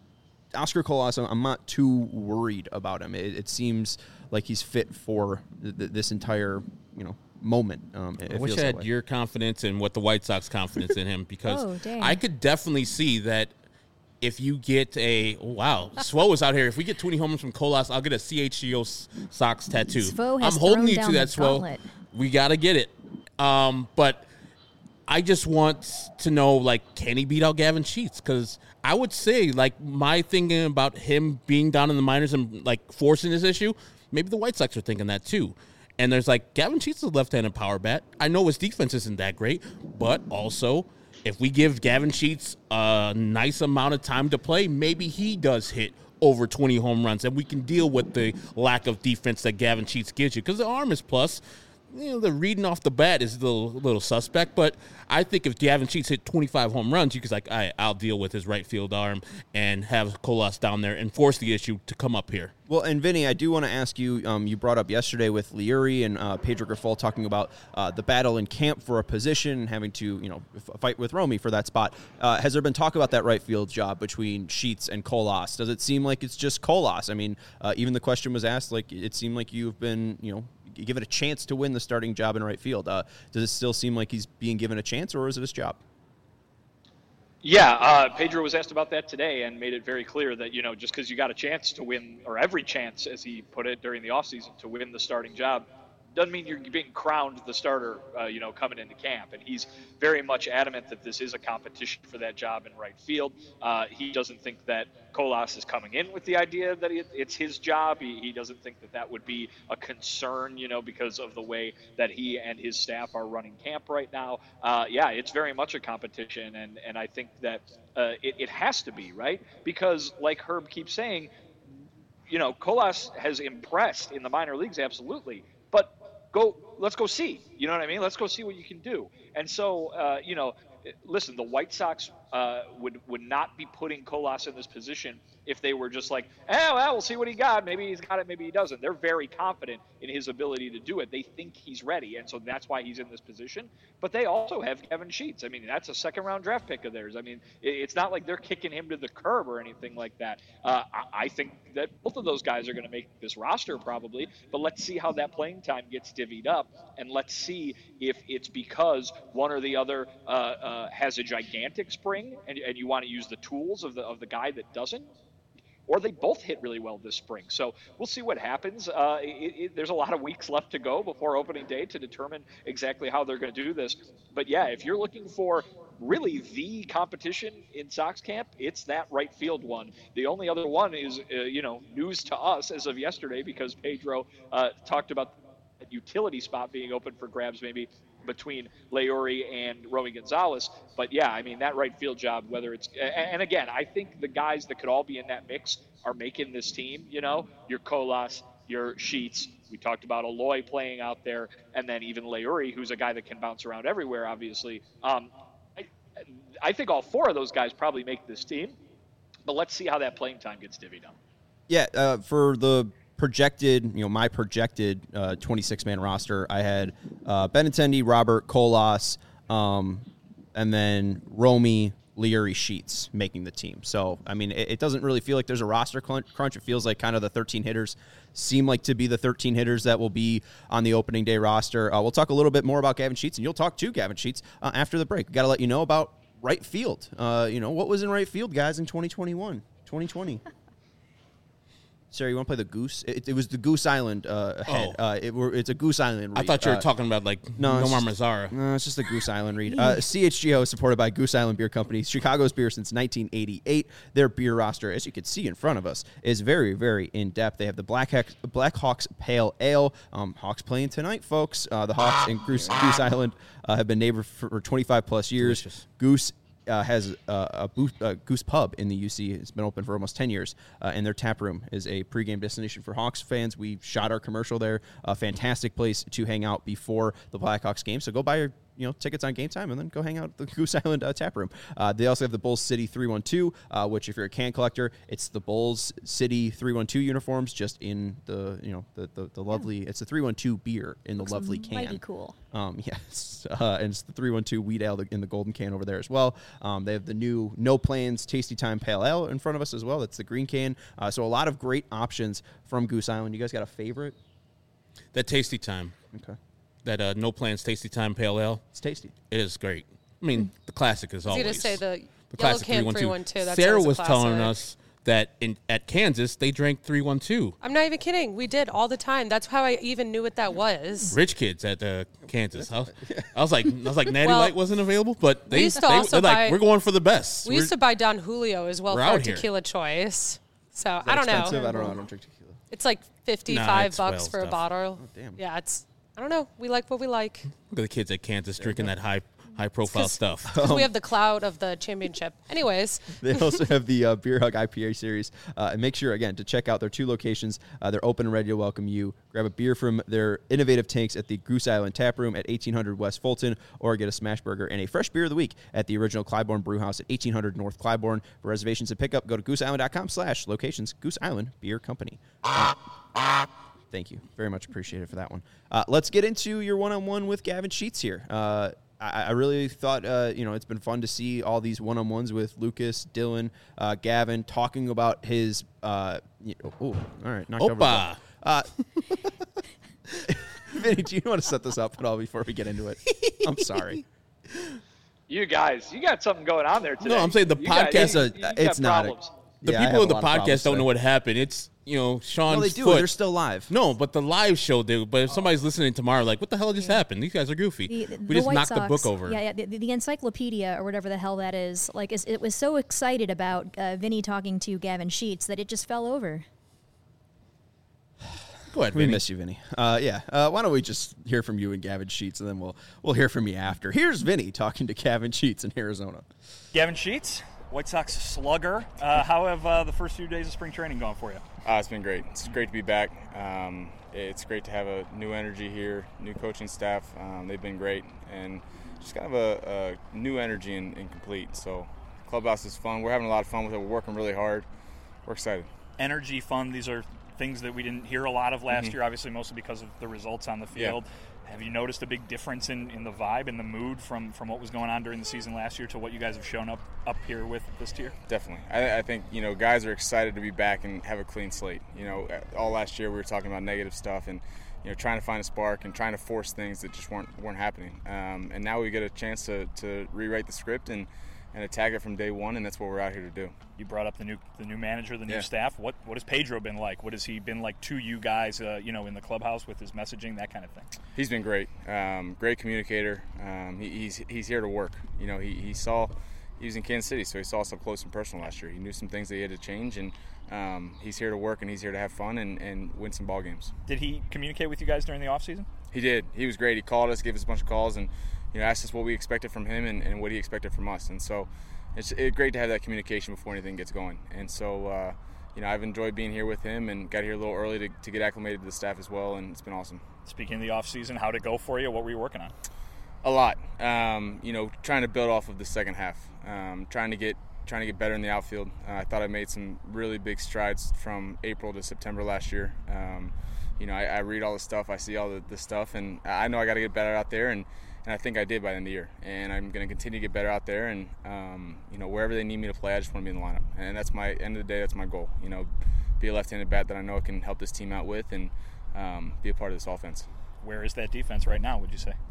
Oscar Colas, I'm not too worried about him. It, it seems like he's fit for th- th- this entire you know. moment. Um, it I wish feels I that had way. your confidence and what the White Sox confidence in him because Oh, dang. I could definitely see that if you get a oh, wow, Svo is out here. If we get twenty homers from Colas, I'll get a C H G O Sox tattoo. Svo has I'm holding thrown you down to the that, Svo. gauntlet. We got to get it. Um, but I just want to know, like, can he beat out Gavin Sheets? Because I would say, like, my thinking about him being down in the minors and, like, forcing this issue, maybe the White Sox are thinking that too. And there's like, Gavin Sheets is a left-handed power bat. I know his defense isn't that great, but also if we give Gavin Sheets a nice amount of time to play, maybe he does hit over twenty home runs, and we can deal with the lack of defense that Gavin Sheets gives you because the arm is plus. You know, the reading off the bat is a little, little suspect, but I think if Gavin Sheets hit twenty-five home runs, you could like, all right, I'll deal with his right field arm and have Colas down there and force the issue to come up here. Well, and Vinny, I do want to ask you, um, you brought up yesterday with Liuri and uh, Pedro Grifol talking about uh, the battle in camp for a position, having to, you know, f- fight with Romy for that spot. Uh, has there been talk about that right field job between Sheets and Colas? Does it seem like it's just Colas? I mean, uh, even the question was asked, like, it seemed like you've been, you know, give it a chance to win the starting job in right field. Uh, does it still seem like he's being given a chance, or is it his job? Yeah, uh, Pedro was asked about that today and made it very clear that, you know, just because you got a chance to win, or every chance, as he put it, during the offseason to win the starting job, doesn't mean you're being crowned the starter, uh, you know, coming into camp. And he's very much adamant that this is a competition for that job in right field. Uh, he doesn't think that Colas is coming in with the idea that it, it's his job. He, he doesn't think that that would be a concern, you know, because of the way that he and his staff are running camp right now. Uh, yeah, it's very much a competition. And, and I think that uh, it, it has to be, right? Because like Herb keeps saying, you know, Colas has impressed in the minor leagues, absolutely. But go, let's go see. You know what I mean? Let's go see what you can do. And so, uh, you know, listen, the White Sox uh, would would not be putting Colas in this position if they were just like, oh, well, we'll see what he got. Maybe he's got it, maybe he doesn't. They're very confident in his ability to do it. They think he's ready, and so that's why he's in this position. But they also have Gavin Sheets. I mean, that's a second-round draft pick of theirs. I mean, it's not like they're kicking him to the curb or anything like that. Uh, I, I think that both of those guys are going to make this roster probably, but let's see how that playing time gets divvied up, and let's see if it's because one or the other uh, uh, has a gigantic spring, and, and you want to use the tools of the of the guy that doesn't, or they both hit really well this spring. So we'll see what happens. Uh, it, it, there's a lot of weeks left to go before opening day to determine exactly how they're going to do this. But yeah, if you're looking for really the competition in Sox camp, it's that right field one. The only other one is, uh, you know, news to us as of yesterday because Pedro uh, talked about that utility spot being open for grabs maybe. between Lauri and Romy Gonzalez. But yeah, I mean, that right field job, whether it's, and again, I think the guys that could all be in that mix are making this team, you know, your Colas, your Sheets. We talked about Aloy playing out there, and then even Lauri, who's a guy that can bounce around everywhere, obviously. Um, I, I think all four of those guys probably make this team, but let's see how that playing time gets divvied up. Yeah, uh, for the projected, you know, my projected uh, twenty-six man roster, I had uh, Benintendi, Robert, Colas, um, and then Romy, Lauri, Sheets making the team. So, I mean, it, it doesn't really feel like there's a roster crunch. It feels like kind of the thirteen hitters seem like to be the thirteen hitters that will be on the opening day roster. Uh, we'll talk a little bit more about Gavin Sheets, and you'll talk to Gavin Sheets uh, after the break. We got to let you know about right field. Uh, you know, what was in right field, guys, in twenty twenty-one, twenty twenty? Sarah, you want to play the Goose? It, it was the Goose Island uh, head. Oh. Uh, it were, it's a Goose Island read. I thought you were uh, talking about, like, no, Nomar just, Mazara. No, it's just the Goose Island read. Uh, C H G O is supported by Goose Island Beer Company, Chicago's beer since nineteen eighty-eight. Their beer roster, as you can see in front of us, is very, very in-depth. They have the Black, Hex, Black Hawks Pale Ale. Um, Hawks playing tonight, folks. Uh, the Hawks and Goose, Goose Island uh, have been neighbors for, for twenty-five plus years. Delicious. Goose Uh, has uh, a, booth, a Goose Pub in the U C. It's been open for almost ten years, uh, and their tap room is a pregame destination for Hawks fans. We shot our commercial there. A fantastic place to hang out before the Blackhawks game. So go buy your you know tickets on Game Time and then go hang out at the Goose Island uh, tap room. Uh, they also have the Bulls City three one two, uh, which if you're a can collector, it's the Bulls City three one two uniforms, just in the you know the the, the lovely. Yeah. It's the three one two beer in the Looks lovely can. Mighty cool. Um, yes, uh, and it's the three one two wheat ale in the golden can over there as well. Um, they have the new No Plans Tasty Time Pale Ale in front of us as well. That's the green can. Uh, so a lot of great options from Goose Island. You guys got a favorite? That Tasty Time. Okay. That uh, No Plans Tasty Time Pale Ale. It's tasty. It is great. I mean, the classic is I was always. going to say the, the yellow classic can three one two. That Sarah sounds a was telling classic. us that in at Kansas they drank three one two. I'm not even kidding. We did all the time. That's how I even knew what that was. Rich kids at uh, Kansas. I was, I was like, I was like, Natty Well, Light wasn't available, but they, we used to they also they're like, buy- we're going for the best. We We're- used to buy Don Julio as well We're for out our here. tequila choice. So Is that I don't expensive? know. I don't know. I don't drink tequila. It's like fifty-five Nah, it's bucks well for a stuff. bottle. Oh, damn. Yeah, it's. I don't know. We like what we like. Look at the kids at Kansas drinking that high high profile stuff. Because we have the cloud of the championship. Anyways, They also have the uh, Beer Hug I P A series. Uh, and make sure, again, to check out their two locations. Uh, they're open and ready to welcome you. Grab a beer from their innovative tanks at the Goose Island Tap Room at eighteen hundred West Fulton, or get a smash burger and a fresh beer of the week at the original Clybourne Brew House at eighteen hundred North Clybourne. For reservations and pickup, go to gooseisland.com slash locations. Goose Island Beer Company. Uh, Thank you. Very much appreciated for that one. Uh, let's get into your one-on-one with Gavin Sheets here. Uh, I, I really thought, uh, you know, it's been fun to see all these one-on-ones with Lucas, Dylan, uh, Gavin, talking about his, uh, you know, oh, all right. Knocked over a Opa. ball. Uh, Vinny, do you want to set this up at all before we get into it? I'm sorry. You guys, you got something going on there today. No, I'm saying the You got- podcast- you- It's a- you got it's not a- problems. The Yeah, I have people a in the lot of problems podcast don't today. know what happened. It's, you know, Sean's No, they do. foot. They're still live. No, but the live show, do. But if somebody's listening tomorrow, like, what the hell just happened? These guys are goofy. The, the we just White knocked Sox, the book over. Yeah, yeah the, the encyclopedia or whatever the hell that is. Like, is, it was so excited about uh, Vinny talking to Gavin Sheets that it just fell over. Go ahead, We Vinny. miss you, Vinny. Uh, yeah. Uh, why don't we just hear from you and Gavin Sheets, and then we'll we'll hear from you after. Here's Vinny talking to Gavin Sheets in Arizona. Gavin Sheets, White Sox slugger. Uh, how have uh, the first few days of spring training gone for you? Uh, it's been great. It's great to be back. Um, it's great to have a new energy here, new coaching staff. Um, they've been great, and just kind of a, a new energy and, and complete. So, clubhouse is fun. We're having a lot of fun with it. We're working really hard. We're excited. Energy, fun. These are things that we didn't hear a lot of last Mhm. year, obviously mostly because of the results on the field. Yeah. Have you noticed a big difference in, in the vibe and the mood from, from what was going on during the season last year to what you guys have shown up up here with this year? Definitely. I, I think, you know, guys are excited to be back and have a clean slate. You know, all last year we were talking about negative stuff and, you know, trying to find a spark and trying to force things that just weren't weren't happening. Um, and now we get a chance to, to rewrite the script and, and attack it from day one, and that's what we're out here to do. You brought up the new the new manager, the new Yeah. staff. What what has Pedro been like? What has he been like to you guys, uh, you know, in the clubhouse with his messaging, that kind of thing? He's been great, um, great communicator. Um, he, he's he's here to work. You know, he, he saw he was in Kansas City, so he saw us up close and personal last year. He knew some things that he had to change, and um, he's here to work and he's here to have fun and, and win some ball games. Did he communicate with you guys during the offseason? He did. He was great. He called us, gave us a bunch of calls, and you know asked us what we expected from him and, and what he expected from us. And so it's it, great to have that communication before anything gets going. And so uh, you know I've enjoyed being here with him and got here a little early to, to get acclimated to the staff as well, and it's been awesome. Speaking of the off season, how'd it go for you? What were you working on? A lot. Um, you know, trying to build off of the second half. Um, trying to get trying to get better in the outfield. Uh, I thought I made some really big strides from April to September last year. Um, you know, I, I read all the stuff, I see all the, the stuff, and I know I got to get better out there, and, and I think I did by the end of the year. And I'm going to continue to get better out there, and um, you know, wherever they need me to play, I just want to be in the lineup. And that's my end of the day. That's my goal. You know, be a left-handed bat that I know I can help this team out with, and um, be a part of this offense. Where is that defense right now, would you say?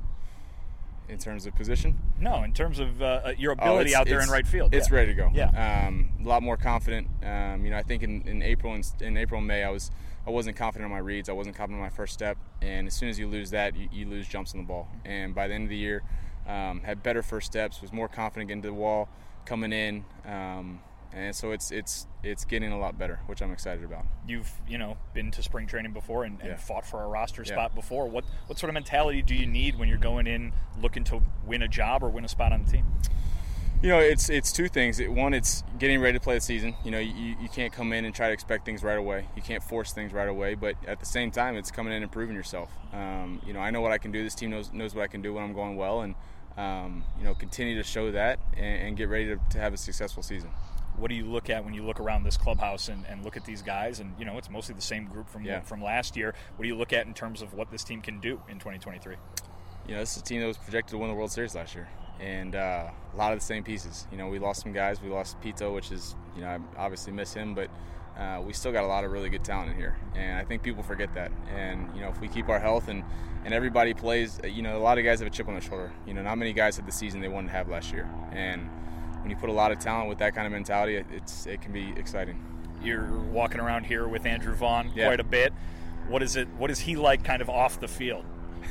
In terms of position? No, in terms of uh, your ability oh, out there in right field. It's yeah. ready to go. Yeah. Um, a lot more confident. Um, you know, I think in, in April and in April and May, I was I wasn't confident on my reads. I wasn't confident on my first step. And as soon as you lose that, you, you lose jumps on the ball. And by the end of the year, um, had better first steps. Was more confident getting to the wall, coming in. Um, and so it's it's it's getting a lot better, which I'm excited about. You've you know been to spring training before and, and yeah. fought for a roster yeah. spot before. What what sort of mentality do you need when you're going in looking to win a job or win a spot on the team? You know, it's it's two things. One, it's getting ready to play the season. You know, you, you can't come in and try to expect things right away. You can't force things right away. But at the same time, it's coming in and proving yourself. Um, you know, I know what I can do. This team knows knows what I can do when I'm going well, and um, you know, continue to show that and, and get ready to, to have a successful season. What do you look at when you look around this clubhouse and, and look at these guys? And, you know, it's mostly the same group from yeah. from last year. What do you look at in terms of what this team can do in twenty twenty-three? You know, this is a team that was projected to win the World Series last year. And uh, a lot of the same pieces. You know, we lost some guys. We lost Pito, which is, you know, I obviously miss him. But uh, we still got a lot of really good talent in here. And I think people forget that. And, you know, if we keep our health and, and everybody plays, you know, a lot of guys have a chip on their shoulder. You know, not many guys had the season they wanted to have last year. And when you put a lot of talent with that kind of mentality, it's it can be exciting. You're walking around here with Andrew Vaughn yeah. quite a bit. What is it? What is he like, kind of off the field?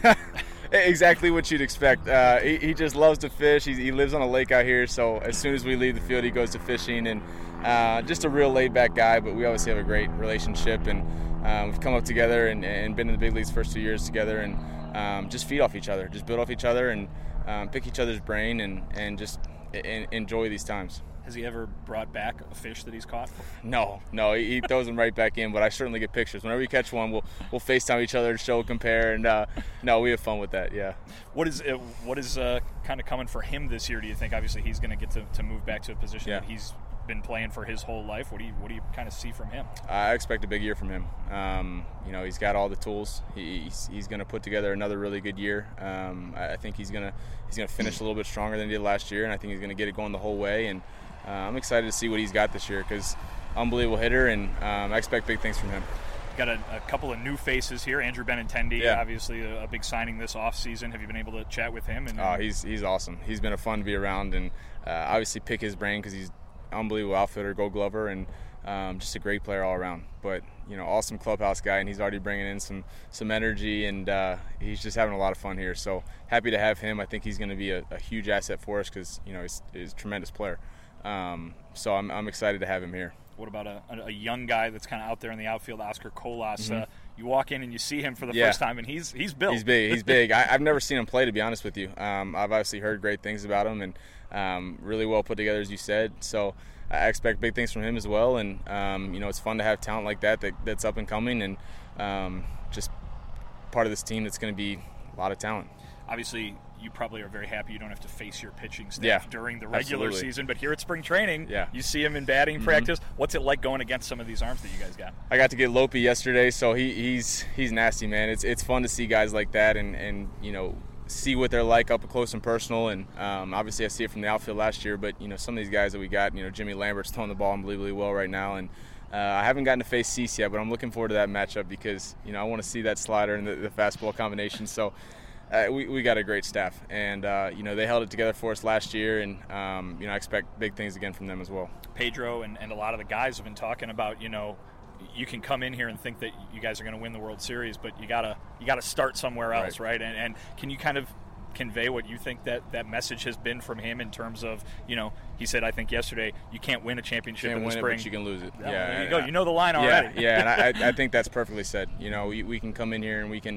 Exactly what you'd expect. Uh, he, he just loves to fish. He, he lives on a lake out here, so as soon as we leave the field, he goes to fishing. And uh, just a real laid-back guy. But we obviously have a great relationship, and um, we've come up together and, and been in the big leagues the first two years together, and um, just feed off each other, just build off each other, and um, pick each other's brain, and and just and enjoy these times. Has he ever brought back a fish that he's caught? No, no, he, he throws them right back in, but I certainly get pictures. Whenever we catch one, we'll we'll FaceTime each other, show, compare, and uh, no, we have fun with that, yeah. What is uh, what is uh, kind of coming for him this year, do you think? Obviously, he's going to get to to move back to a position yeah. that he's been playing for his whole life. What do you what do you kind of see from him? I expect a big year from him. Um, you know, he's got all the tools. He, he's he's going to put together another really good year. Um, I, I think he's going to he's going to finish a little bit stronger than he did last year, and I think he's going to get it going the whole way. And uh, I'm excited to see what he's got this year because unbelievable hitter, and um, I expect big things from him. Got a, a couple of new faces here. Andrew Benintendi, yeah. obviously a, a big signing this offseason. Have you been able to chat with him? And, oh, he's he's awesome. He's been a fun to be around, and uh, obviously pick his brain because he's unbelievable outfielder, Gold Glover, and um, just a great player all around. But you know, awesome clubhouse guy, and he's already bringing in some some energy, and uh, he's just having a lot of fun here. So happy to have him. I think he's going to be a, a huge asset for us because you know he's, he's a tremendous player. Um, so I'm I'm excited to have him here. What about a, a young guy that's kind of out there in the outfield, Oscar Colas? Mm-hmm. Uh, you walk in and you see him for the yeah. first time, and he's he's built. He's big. He's big. I, I've never seen him play, to be honest with you. Um, I've obviously heard great things about him, and um, really well put together, as you said. So I expect big things from him as well. And um, you know, it's fun to have talent like that, that that's up and coming, and um, just part of this team that's going to be a lot of talent. Obviously, you probably are very happy you don't have to face your pitching staff yeah, during the regular absolutely. season, but here at spring training, yeah. you see him in batting mm-hmm. practice. What's it like going against some of these arms that you guys got? I got to get Lopi yesterday, so he, he's he's nasty, man. It's it's fun to see guys like that, and, and you know see what they're like up close and personal. And um, obviously, I see it from the outfield last year, but you know some of these guys that we got, you know Jimmy Lambert's throwing the ball unbelievably well right now, and uh, I haven't gotten to face Cease yet, but I'm looking forward to that matchup because you know I want to see that slider and the, the fastball combination. So. Uh, we, we got a great staff, and uh, you know they held it together for us last year, and um, you know I expect big things again from them as well. Pedro and, and a lot of the guys have been talking about, you know, you can come in here and think that you guys are going to win the World Series, but you gotta you gotta start somewhere else, right? right? And, and can you kind of convey what you think that, that message has been from him in terms of, you know, he said I think yesterday you can't win a championship can't in the win spring, it, but you can lose it. Yeah, yeah there you go. You know the line already. Yeah, yeah, and I, I think that's perfectly said. You know, we, we can come in here and we can.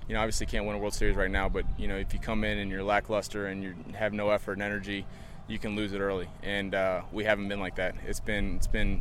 you know, obviously can't win a World Series right now, but, you know, if you come in and you're lackluster and you have no effort and energy, you can lose it early. And uh, we haven't been like that. It's been, it's been,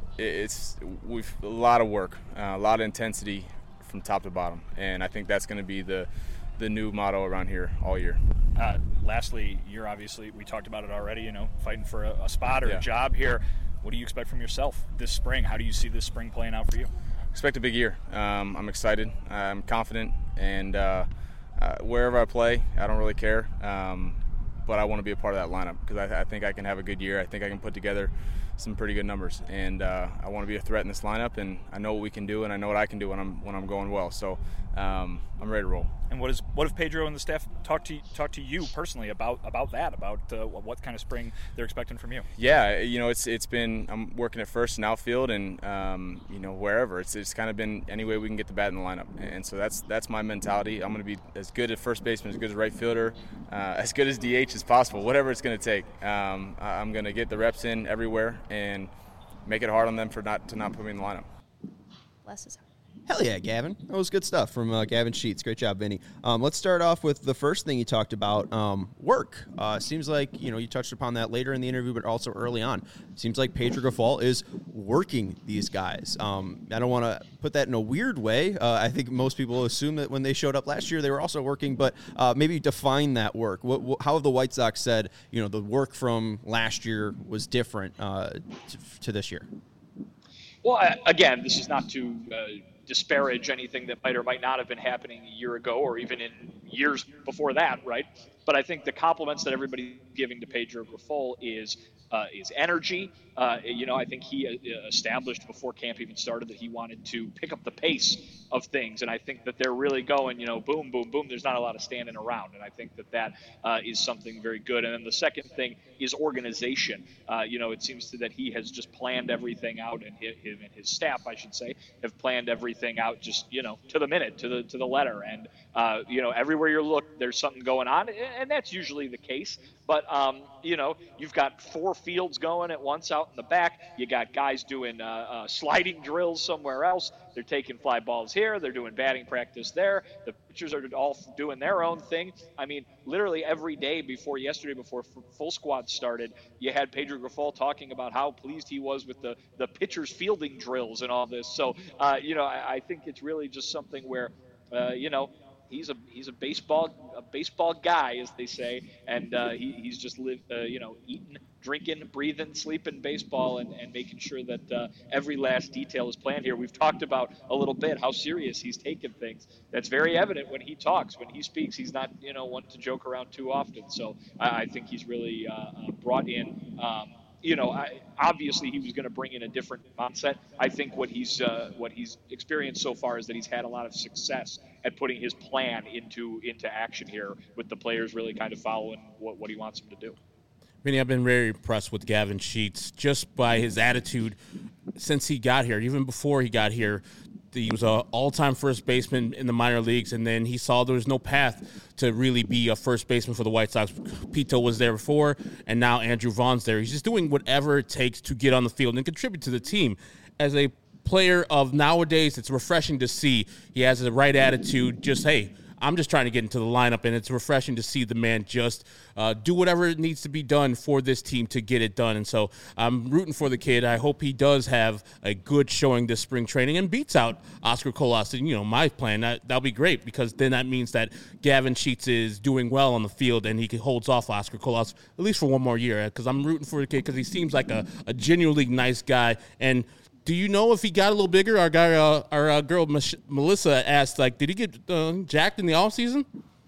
it's, we've, a lot of work, uh, a lot of intensity from top to bottom. And I think that's going to be the, the new motto around here all year. Uh, lastly, you're obviously, we talked about it already, you know, fighting for a, a spot or Yeah. a job here. What do you expect from yourself this spring? How do you see this spring playing out for you? Expect a big year. Um, I'm excited. I'm confident, and uh, uh, wherever I play, I don't really care. Um, but I want to be a part of that lineup because I, I think I can have a good year. I think I can put together some pretty good numbers, and uh, I want to be a threat in this lineup. And I know what we can do, and I know what I can do when I'm when I'm going well. So um, I'm ready to roll. And what is what have Pedro and the staff talked to talk to you personally about about that? About uh, what kind of spring they're expecting from you? Yeah, you know, it's it's been I'm working at first and outfield, and um, you know, wherever it's it's kind of been any way we can get the bat in the lineup, and so that's that's my mentality. I'm going to be as good at first baseman, as good as right fielder, uh, as good as D H as possible, whatever it's going to take. Um, I'm going to get the reps in everywhere and make it hard on them for not to not put me in the lineup. Bless his heart. Hell yeah, Gavin. That was good stuff from uh, Gavin Sheets. Great job, Vinny. Um, let's start off with the first thing you talked about, um, work. Uh, seems like, you know, you touched upon that later in the interview, but also early on. Seems like Pedro Grifol is working these guys. Um, I don't want to put that in a weird way. Uh, I think most people assume that when they showed up last year, they were also working, but uh, maybe define that work. What, what, how have the White Sox said, you know, the work from last year was different uh, to, to this year? Well, I, again, this is not to uh, disparage anything that might or might not have been happening a year ago or even in years before that, right? But I think the compliments that everybody's giving to Pedro Grifol is uh, is energy. Uh, you know, I think he uh, established before camp even started that he wanted to pick up the pace of things, and I think that they're really going, you know, boom, boom, boom. There's not a lot of standing around, and I think that that uh, is something very good. And then the second thing is organization. Uh, you know, it seems to that he has just planned everything out, and him and his staff, I should say, have planned everything out just, you know, to the minute, to the to the letter. And uh, you know, everywhere you look, there's something going on, and that's usually the case. But um, you know, you've got four fields going at once out in the back. You got guys doing uh, uh, sliding drills somewhere else. They're taking fly balls here. They're doing batting practice there. The pitchers are all doing their own thing. I mean, literally every day before yesterday, before full squad started, you had Pedro Grifol talking about how pleased he was with the, the pitchers' fielding drills and all this. So, uh, you know, I, I think it's really just something where, uh, you know, he's a he's a baseball a baseball guy, as they say, and uh, he, he's just lived, uh, you know, eating, drinking, breathing, sleeping baseball, and, and making sure that uh, every last detail is planned here. We've talked about a little bit how serious he's taken things. That's very evident when he talks, when he speaks. He's not, you know, one to joke around too often. So I, I think he's really uh, brought in. Um, You know, I, obviously he was going to bring in a different mindset. I think what he's uh, what he's experienced so far is that he's had a lot of success at putting his plan into into action here, with the players really kind of following what, what he wants them to do. Vinny, I've been very impressed with Gavin Sheets just by his attitude since he got here. Even before he got here, he was an all-time first baseman in the minor leagues, and then he saw there was no path to really be a first baseman for the White Sox. Pito was there before, and now Andrew Vaughn's there. He's just doing whatever it takes to get on the field and contribute to the team. As a player of nowadays, it's refreshing to see he has the right attitude. Just, hey, I'm just trying to get into the lineup, and it's refreshing to see the man just uh, do whatever needs to be done for this team to get it done. And so I'm rooting for the kid. I hope he does have a good showing this spring training and beats out Oscar Colas. And, you know, my plan, that, that'll be great, because then that means that Gavin Sheets is doing well on the field and he holds off Oscar Colas at least for one more year, because I'm rooting for the kid because he seems like a, a genuinely nice guy. And do you know if he got a little bigger? Our guy, uh, our uh, girl Mich- Melissa asked, like, did he get uh, jacked in the offseason?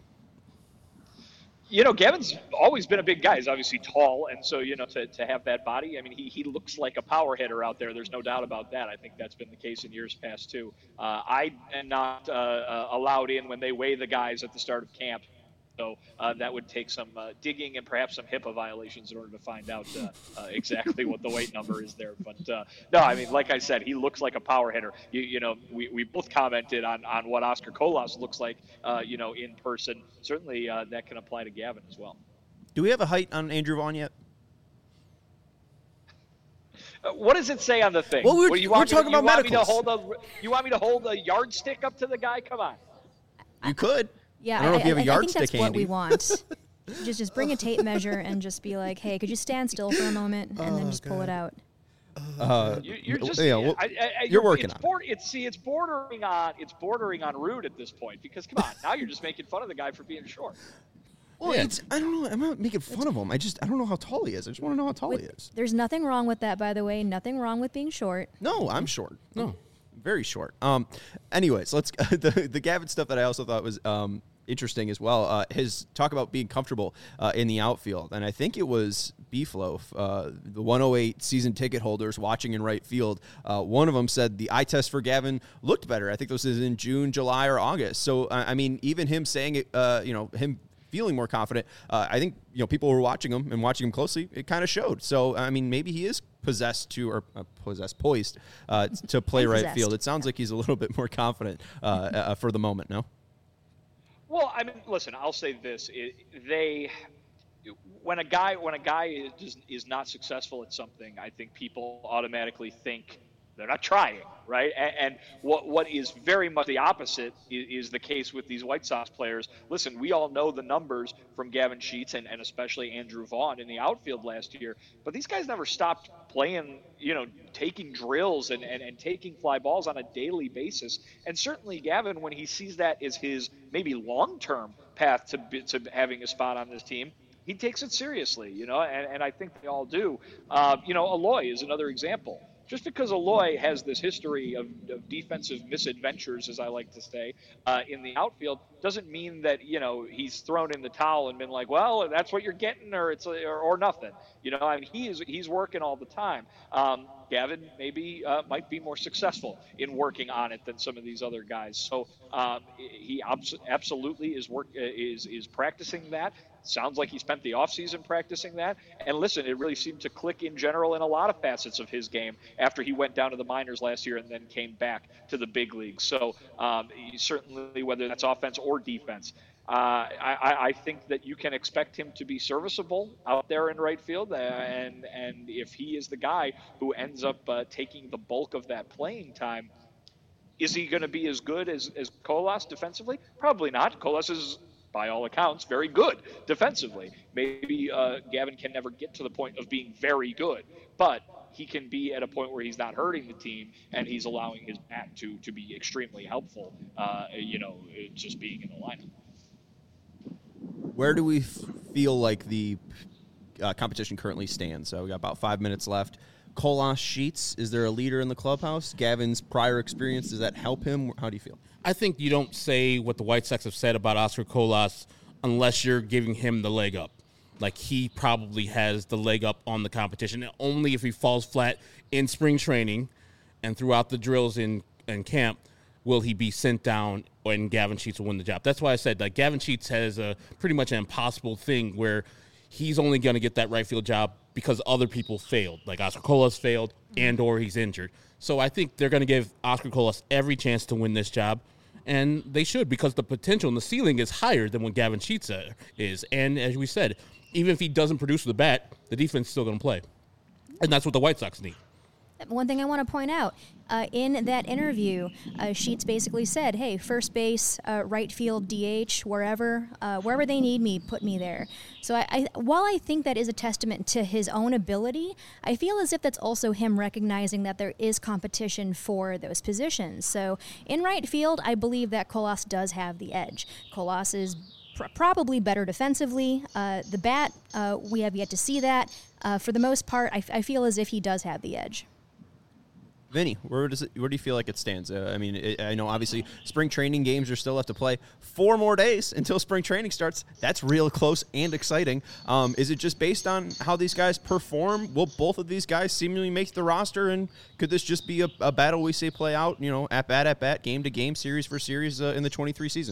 You know, Gavin's always been a big guy. He's obviously tall, and so, you know, to, to have that body, I mean, he, he looks like a power hitter out there. There's no doubt about that. I think that's been the case in years past, too. Uh, I am not uh, uh, allowed in when they weigh the guys at the start of camp. So uh, that would take some uh, digging and perhaps some HIPAA violations in order to find out uh, uh, exactly what the weight number is there. But uh, no, I mean, like I said, he looks like a power hitter. You, you know, we, we both commented on, on what Oscar Colas looks like, uh, you know, in person. Certainly uh, that can apply to Gavin as well. Do we have a height on Andrew Vaughn yet? Uh, what does it say on the thing? Well, we're, what, you we're want talking to, about you medicals. Want me to hold a, you want me to hold a yardstick up to the guy? Come on. You could. Yeah, I don't know I, if you have a I, I yardstick think that's handy. what we want. just just bring a tape measure and just be like, hey, could you stand still for a moment and then just pull it out. Uh, You, you're just, yeah, well, I, I, I, you're working it's on it. bord- It's see, it's bordering on, it's bordering on rude at this point because come on, now you're just making fun of the guy for being short. Well, it's I don't know. I'm not making fun of him. I just I don't know how tall he is. I just want to know how tall With- he is. There's nothing wrong with that, by the way. Nothing wrong with being short. No, I'm short. No, very short. Um, anyways, let's the the Gavin stuff that I also thought was um interesting as well. Uh, his talk about being comfortable uh, in the outfield, and I think it was Beefloaf, uh, the one oh eight season ticket holders watching in right field. Uh, one of them said the eye test for Gavin looked better. I think this was in June, July, or August. So uh, I mean, even him saying it, uh, you know, him. feeling more confident. Uh, I think, you know, people were watching him and watching him closely. It kind of showed. So, I mean, maybe he is possessed to, or uh, possessed, poised uh, to play right Possessed. field. It sounds like he's a little bit more confident uh, uh, for the moment, no? Well, I mean, listen, I'll say this: it, they, when a guy when a guy is is not successful at something, I think people automatically think they're not trying, right? And, and what what is very much the opposite is, is the case with these White Sox players. Listen, we all know the numbers from Gavin Sheets and, and especially Andrew Vaughn in the outfield last year, but these guys never stopped playing, you know, taking drills and, and, and taking fly balls on a daily basis. And certainly Gavin, when he sees that as his maybe long-term path to be, to having a spot on this team, he takes it seriously, you know, and, and I think they all do. Uh, you know, Eloy is another example. Just because Eloy has this history of, of defensive misadventures, as I like to say, uh, in the outfield, doesn't mean that, you know, he's thrown in the towel and been like, well, that's what you're getting, or it's or, or nothing. You know, I mean, he is he's working all the time. Um, Gavin maybe uh, might be more successful in working on it than some of these other guys. So um, he abs- absolutely is work is is practicing that. Sounds like he spent the offseason practicing that. And listen, it really seemed to click in general in a lot of facets of his game after he went down to the minors last year and then came back to the big leagues. So um, certainly, whether that's offense or defense, uh, I, I think that you can expect him to be serviceable out there in right field. Uh, and, and if he is the guy who ends up uh, taking the bulk of that playing time, is he going to be as good as, as Colas defensively? Probably not. Colas is, by all accounts, very good defensively. Maybe uh, Gavin can never get to the point of being very good, but he can be at a point where he's not hurting the team and he's allowing his bat to to be extremely helpful, uh, you know, just being in the lineup. Where do we f- feel like the uh, competition currently stands? So we got about five minutes left. Colas, Sheets, is there a leader in the clubhouse? Gavin's prior experience, does that help him? How do you feel? I think you don't say what the White Sox have said about Oscar Colas unless you're giving him the leg up. Like, he probably has the leg up on the competition. And only if he falls flat in spring training and throughout the drills in, in camp will he be sent down and Gavin Sheets will win the job. That's why I said, like, Gavin Sheets has a pretty much an impossible thing where he's only going to get that right field job because other people failed. Like, Oscar Colas failed and or he's injured. So I think they're going to give Oscar Colas every chance to win this job, and they should, because the potential and the ceiling is higher than what Gavin Sheets uh, is. And as we said, even if he doesn't produce with the bat, the defense is still going to play. And that's what the White Sox need. One thing I want to point out, uh, in that interview, uh, Sheets basically said, hey, first base, uh, right field, D H, wherever, uh, wherever they need me, put me there. So I, I, while I think that is a testament to his own ability, I feel as if that's also him recognizing that there is competition for those positions. So in right field, I believe that Colas does have the edge. Colas is pr- probably better defensively. Uh, the bat, uh, we have yet to see that. Uh, for the most part, I, f- I feel as if he does have the edge. Vinny, where does it? Where do you feel like it stands? Uh, I mean, it, I know obviously spring training games are still left to play. Four more days until spring training starts. That's real close and exciting. Um, is it just based on how these guys perform? Will both of these guys seemingly make the roster? And could this just be a, a battle we say play out, you know, at bat at bat, game to game, series for series uh, in the twenty-three season?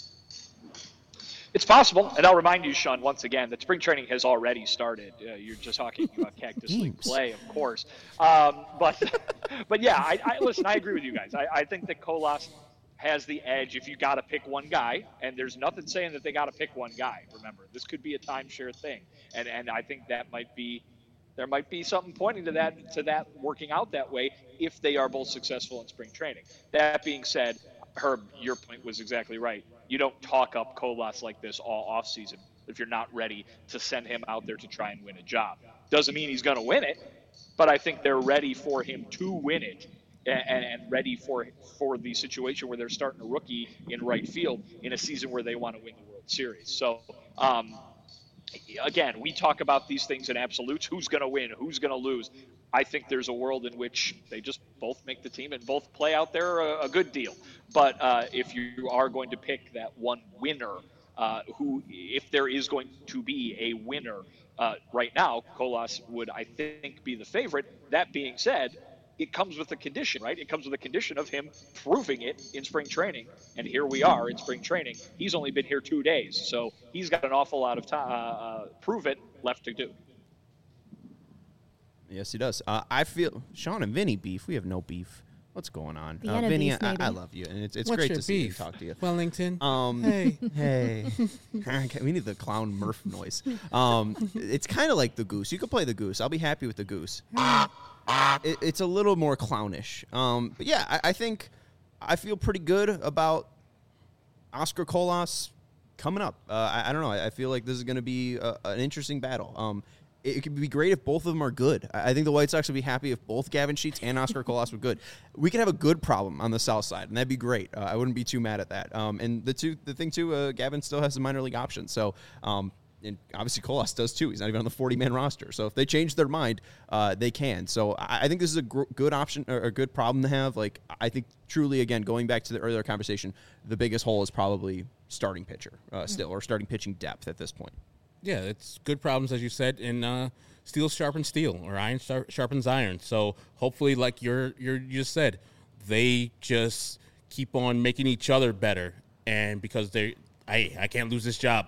It's possible, and I'll remind you, Sean, once again, that spring training has already started. Uh, you're just talking about Cactus League play, of course. Um, but, but yeah, I, I, listen, I agree with you guys. I, I think that Colas has the edge if you got to pick one guy, and there's nothing saying that they got to pick one guy. Remember, this could be a timeshare thing, and and I think that might be there might be something pointing to that to that working out that way if they are both successful in spring training. That being said, Herb, your point was exactly right. You don't talk up Colas like this all offseason if you're not ready to send him out there to try and win a job. Doesn't mean he's going to win it, but I think they're ready for him to win it and, and ready for for the situation where they're starting a rookie in right field in a season where they want to win the World Series. So, um, again, we talk about these things in absolutes. Who's going to win? Who's going to lose? I think there's a world in which they just both make the team and both play out there a, a good deal. But uh, if you are going to pick that one winner, uh, who, if there is going to be a winner uh, right now, Colas would, I think, be the favorite. That being said, it comes with a condition, right? It comes with a condition of him proving it in spring training. And here we are in spring training. He's only been here two days, so he's got an awful lot of time, uh, uh, prove it, left to do. Yes, he does. Uh, I feel Sean and Vinny beef. We have no beef. What's going on? Uh, Vienna Vinny, beef, I, maybe. I love you, and it's it's What's great your to see you beef? talk to you. Wellington. Um, Hey. hey. Okay, we need the clown Murph noise. Um, it's kind of like the goose. You can play the goose. I'll be happy with the goose. It, it's a little more clownish. Um, but yeah, I, I think I feel pretty good about Oscar Colas coming up. Uh, I, I don't know. I, I feel like this is going to be a, an interesting battle. Um, it, it could be great if both of them are good. I, I think the White Sox would be happy if both Gavin Sheets and Oscar Colas were good. We could have a good problem on the south side, and that'd be great. Uh, I wouldn't be too mad at that. Um, and the two, the thing too, uh, Gavin still has some minor league options. So, um, and obviously Colas does too. He's not even on the forty-man roster. So if they change their mind, uh, they can. So I, I think this is a gr- good option or a good problem to have. Like, I think truly, again, going back to the earlier conversation, the biggest hole is probably starting pitcher uh, still, or starting pitching depth at this point. Yeah, it's good problems, as you said, and uh, steel sharpens steel, or iron star- sharpens iron. So hopefully, like you're, you're, you just said, they just keep on making each other better. And because they, I, I can't lose this job.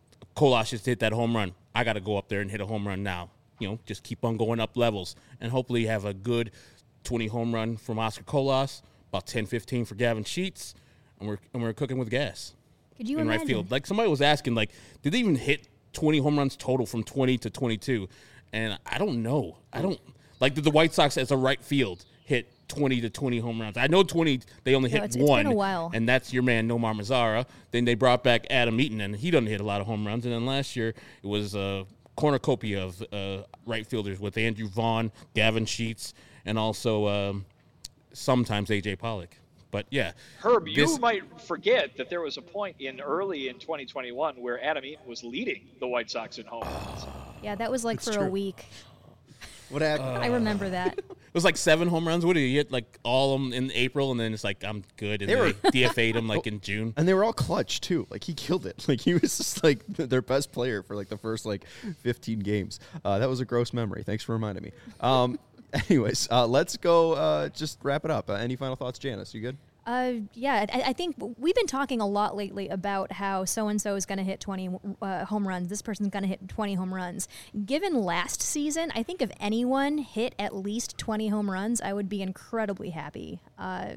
Colas just hit that home run. I got to go up there and hit a home run now. You know, just keep on going up levels. And hopefully have a good twenty home run from Oscar Colas, about ten, fifteen for Gavin Sheets, and we're and we're cooking with gas. Could you in imagine? right field. Like, somebody was asking, like, did they even hit twenty home runs total from twenty to twenty-two? And I don't know. I don't – like, did the White Sox as a right field hit twenty to twenty home runs? I know twenty, they only hit No, it's- one. it's been a while. And that's your man, Nomar Mazara. Then they brought back Adam Eaton, and he doesn't hit a lot of home runs. And then last year, it was a cornucopia of uh, right fielders with Andrew Vaughn, Gavin Sheets, and also um, sometimes A J Pollock. But, yeah. Herb, this- you might forget that there was a point in early in twenty twenty-one where Adam Eaton was leading the White Sox in home runs. Yeah, that was like It's for true. a week. What happened? I remember that. It was like seven home runs. What did he hit? Like all of them in April, and then it's like, I'm good. And They then were- they D F A'd him like in June. And they were all clutch too. Like, he killed it. Like, he was just like their best player for like the first like fifteen games. Uh, that was a gross memory. Thanks for reminding me. Um, anyways, uh, let's go. Uh, just wrap it up. Uh, any final thoughts, Janice? You good? Uh, yeah, I, I think we've been talking a lot lately about how so-and-so is going to hit twenty uh, home runs. This person's going to hit twenty home runs. Given last season, I think if anyone hit at least twenty home runs, I would be incredibly happy. Uh,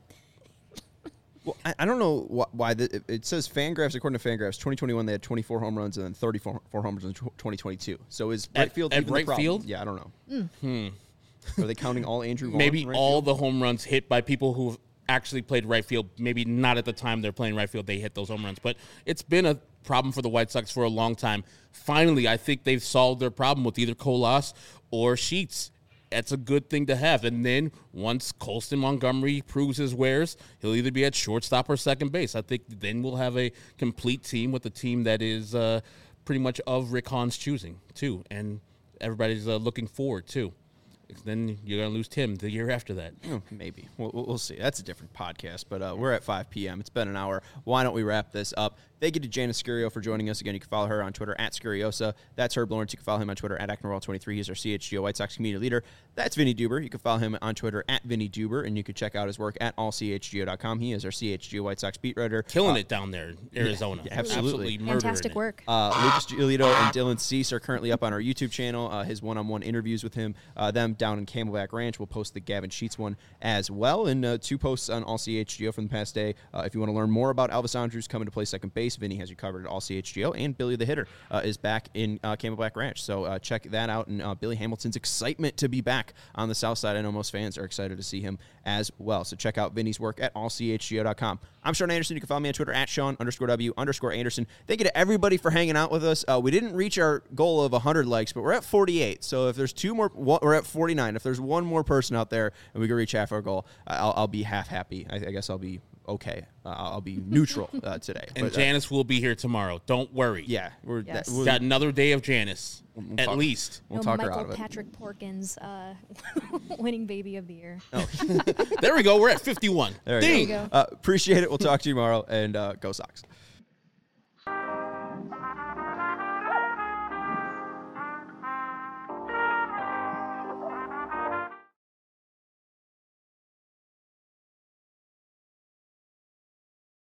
Well, I, I don't know wh- why the, it, it says Fangraphs. According to Fangraphs, twenty twenty-one they had twenty-four home runs and then thirty-four four home runs in tw- twenty twenty-two. So is At- right field at even the right problem? field? Yeah, I don't know. Mm. Hmm. Are they counting all Andrew Vaughn? Maybe in right all field? the home runs hit by people who've actually played right field. Maybe not at the time they're playing right field, they hit those home runs. But it's been a problem for the White Sox for a long time. Finally, I think they've solved their problem with either Colas or Sheets. That's a good thing to have. And then once Colston Montgomery proves his wares, he'll either be at shortstop or second base. I think then we'll have a complete team with a team that is uh, pretty much of Rick Hahn's choosing, too. And everybody's uh, looking forward, too. Then you're going to lose Tim the year after that. Oh, maybe. We'll, we'll see. That's a different podcast, but uh, we're at five p.m. It's been an hour. Why don't we wrap this up? Thank you to Janice Scurio for joining us again. You can follow her on Twitter at Scuriosa. That's Herb Lawrence. You can follow him on Twitter at Acknerwall twenty-three. He's our C H G O White Sox community leader. That's Vinny Duber. You can follow him on Twitter at Vinny Duber, and you can check out his work at all C H G O dot com. He is our C H G O White Sox beat writer. Killing Uh, it down there in Arizona. Yeah, absolutely. murdering Fantastic it. work. Uh, Lucas Giolito and Dylan Cease are currently up on our YouTube channel. Uh, his one-on-one interviews with him, uh, them down in Camelback Ranch. We'll post the Gavin Sheets one as well, and uh, two posts on all C H G O from the past day. Uh, if you want to learn more about Elvis Andrews coming to play second base case. Vinny has you covered at all C H G O, and Billy the Hitter uh, is back in uh, Camelback Ranch. So uh, check that out. And uh, Billy Hamilton's excitement to be back on the South Side. I know most fans are excited to see him as well. So check out Vinny's work at all C H G O dot com. I'm Sean Anderson. You can follow me on Twitter at Sean underscore W underscore Anderson. Thank you to everybody for hanging out with us. Uh, we didn't reach our goal of one hundred likes, but we're at forty-eight. So if there's two more, one, we're at forty-nine. If there's one more person out there and we can reach half our goal, I'll, I'll be half happy. I, I guess I'll be okay. Uh, I'll be neutral uh, today. And but, Janice uh, will be here tomorrow. Don't worry. Yeah. We're, yes. that, we're got another day of Janice, we'll at talk, least. We'll no talk Michael her out of it. Patrick Porkins uh, winning baby of the year. Oh. There we go. We're at fifty-one. There Ding. you go. Uh, appreciate it. We'll talk to you tomorrow, and uh, go Sox.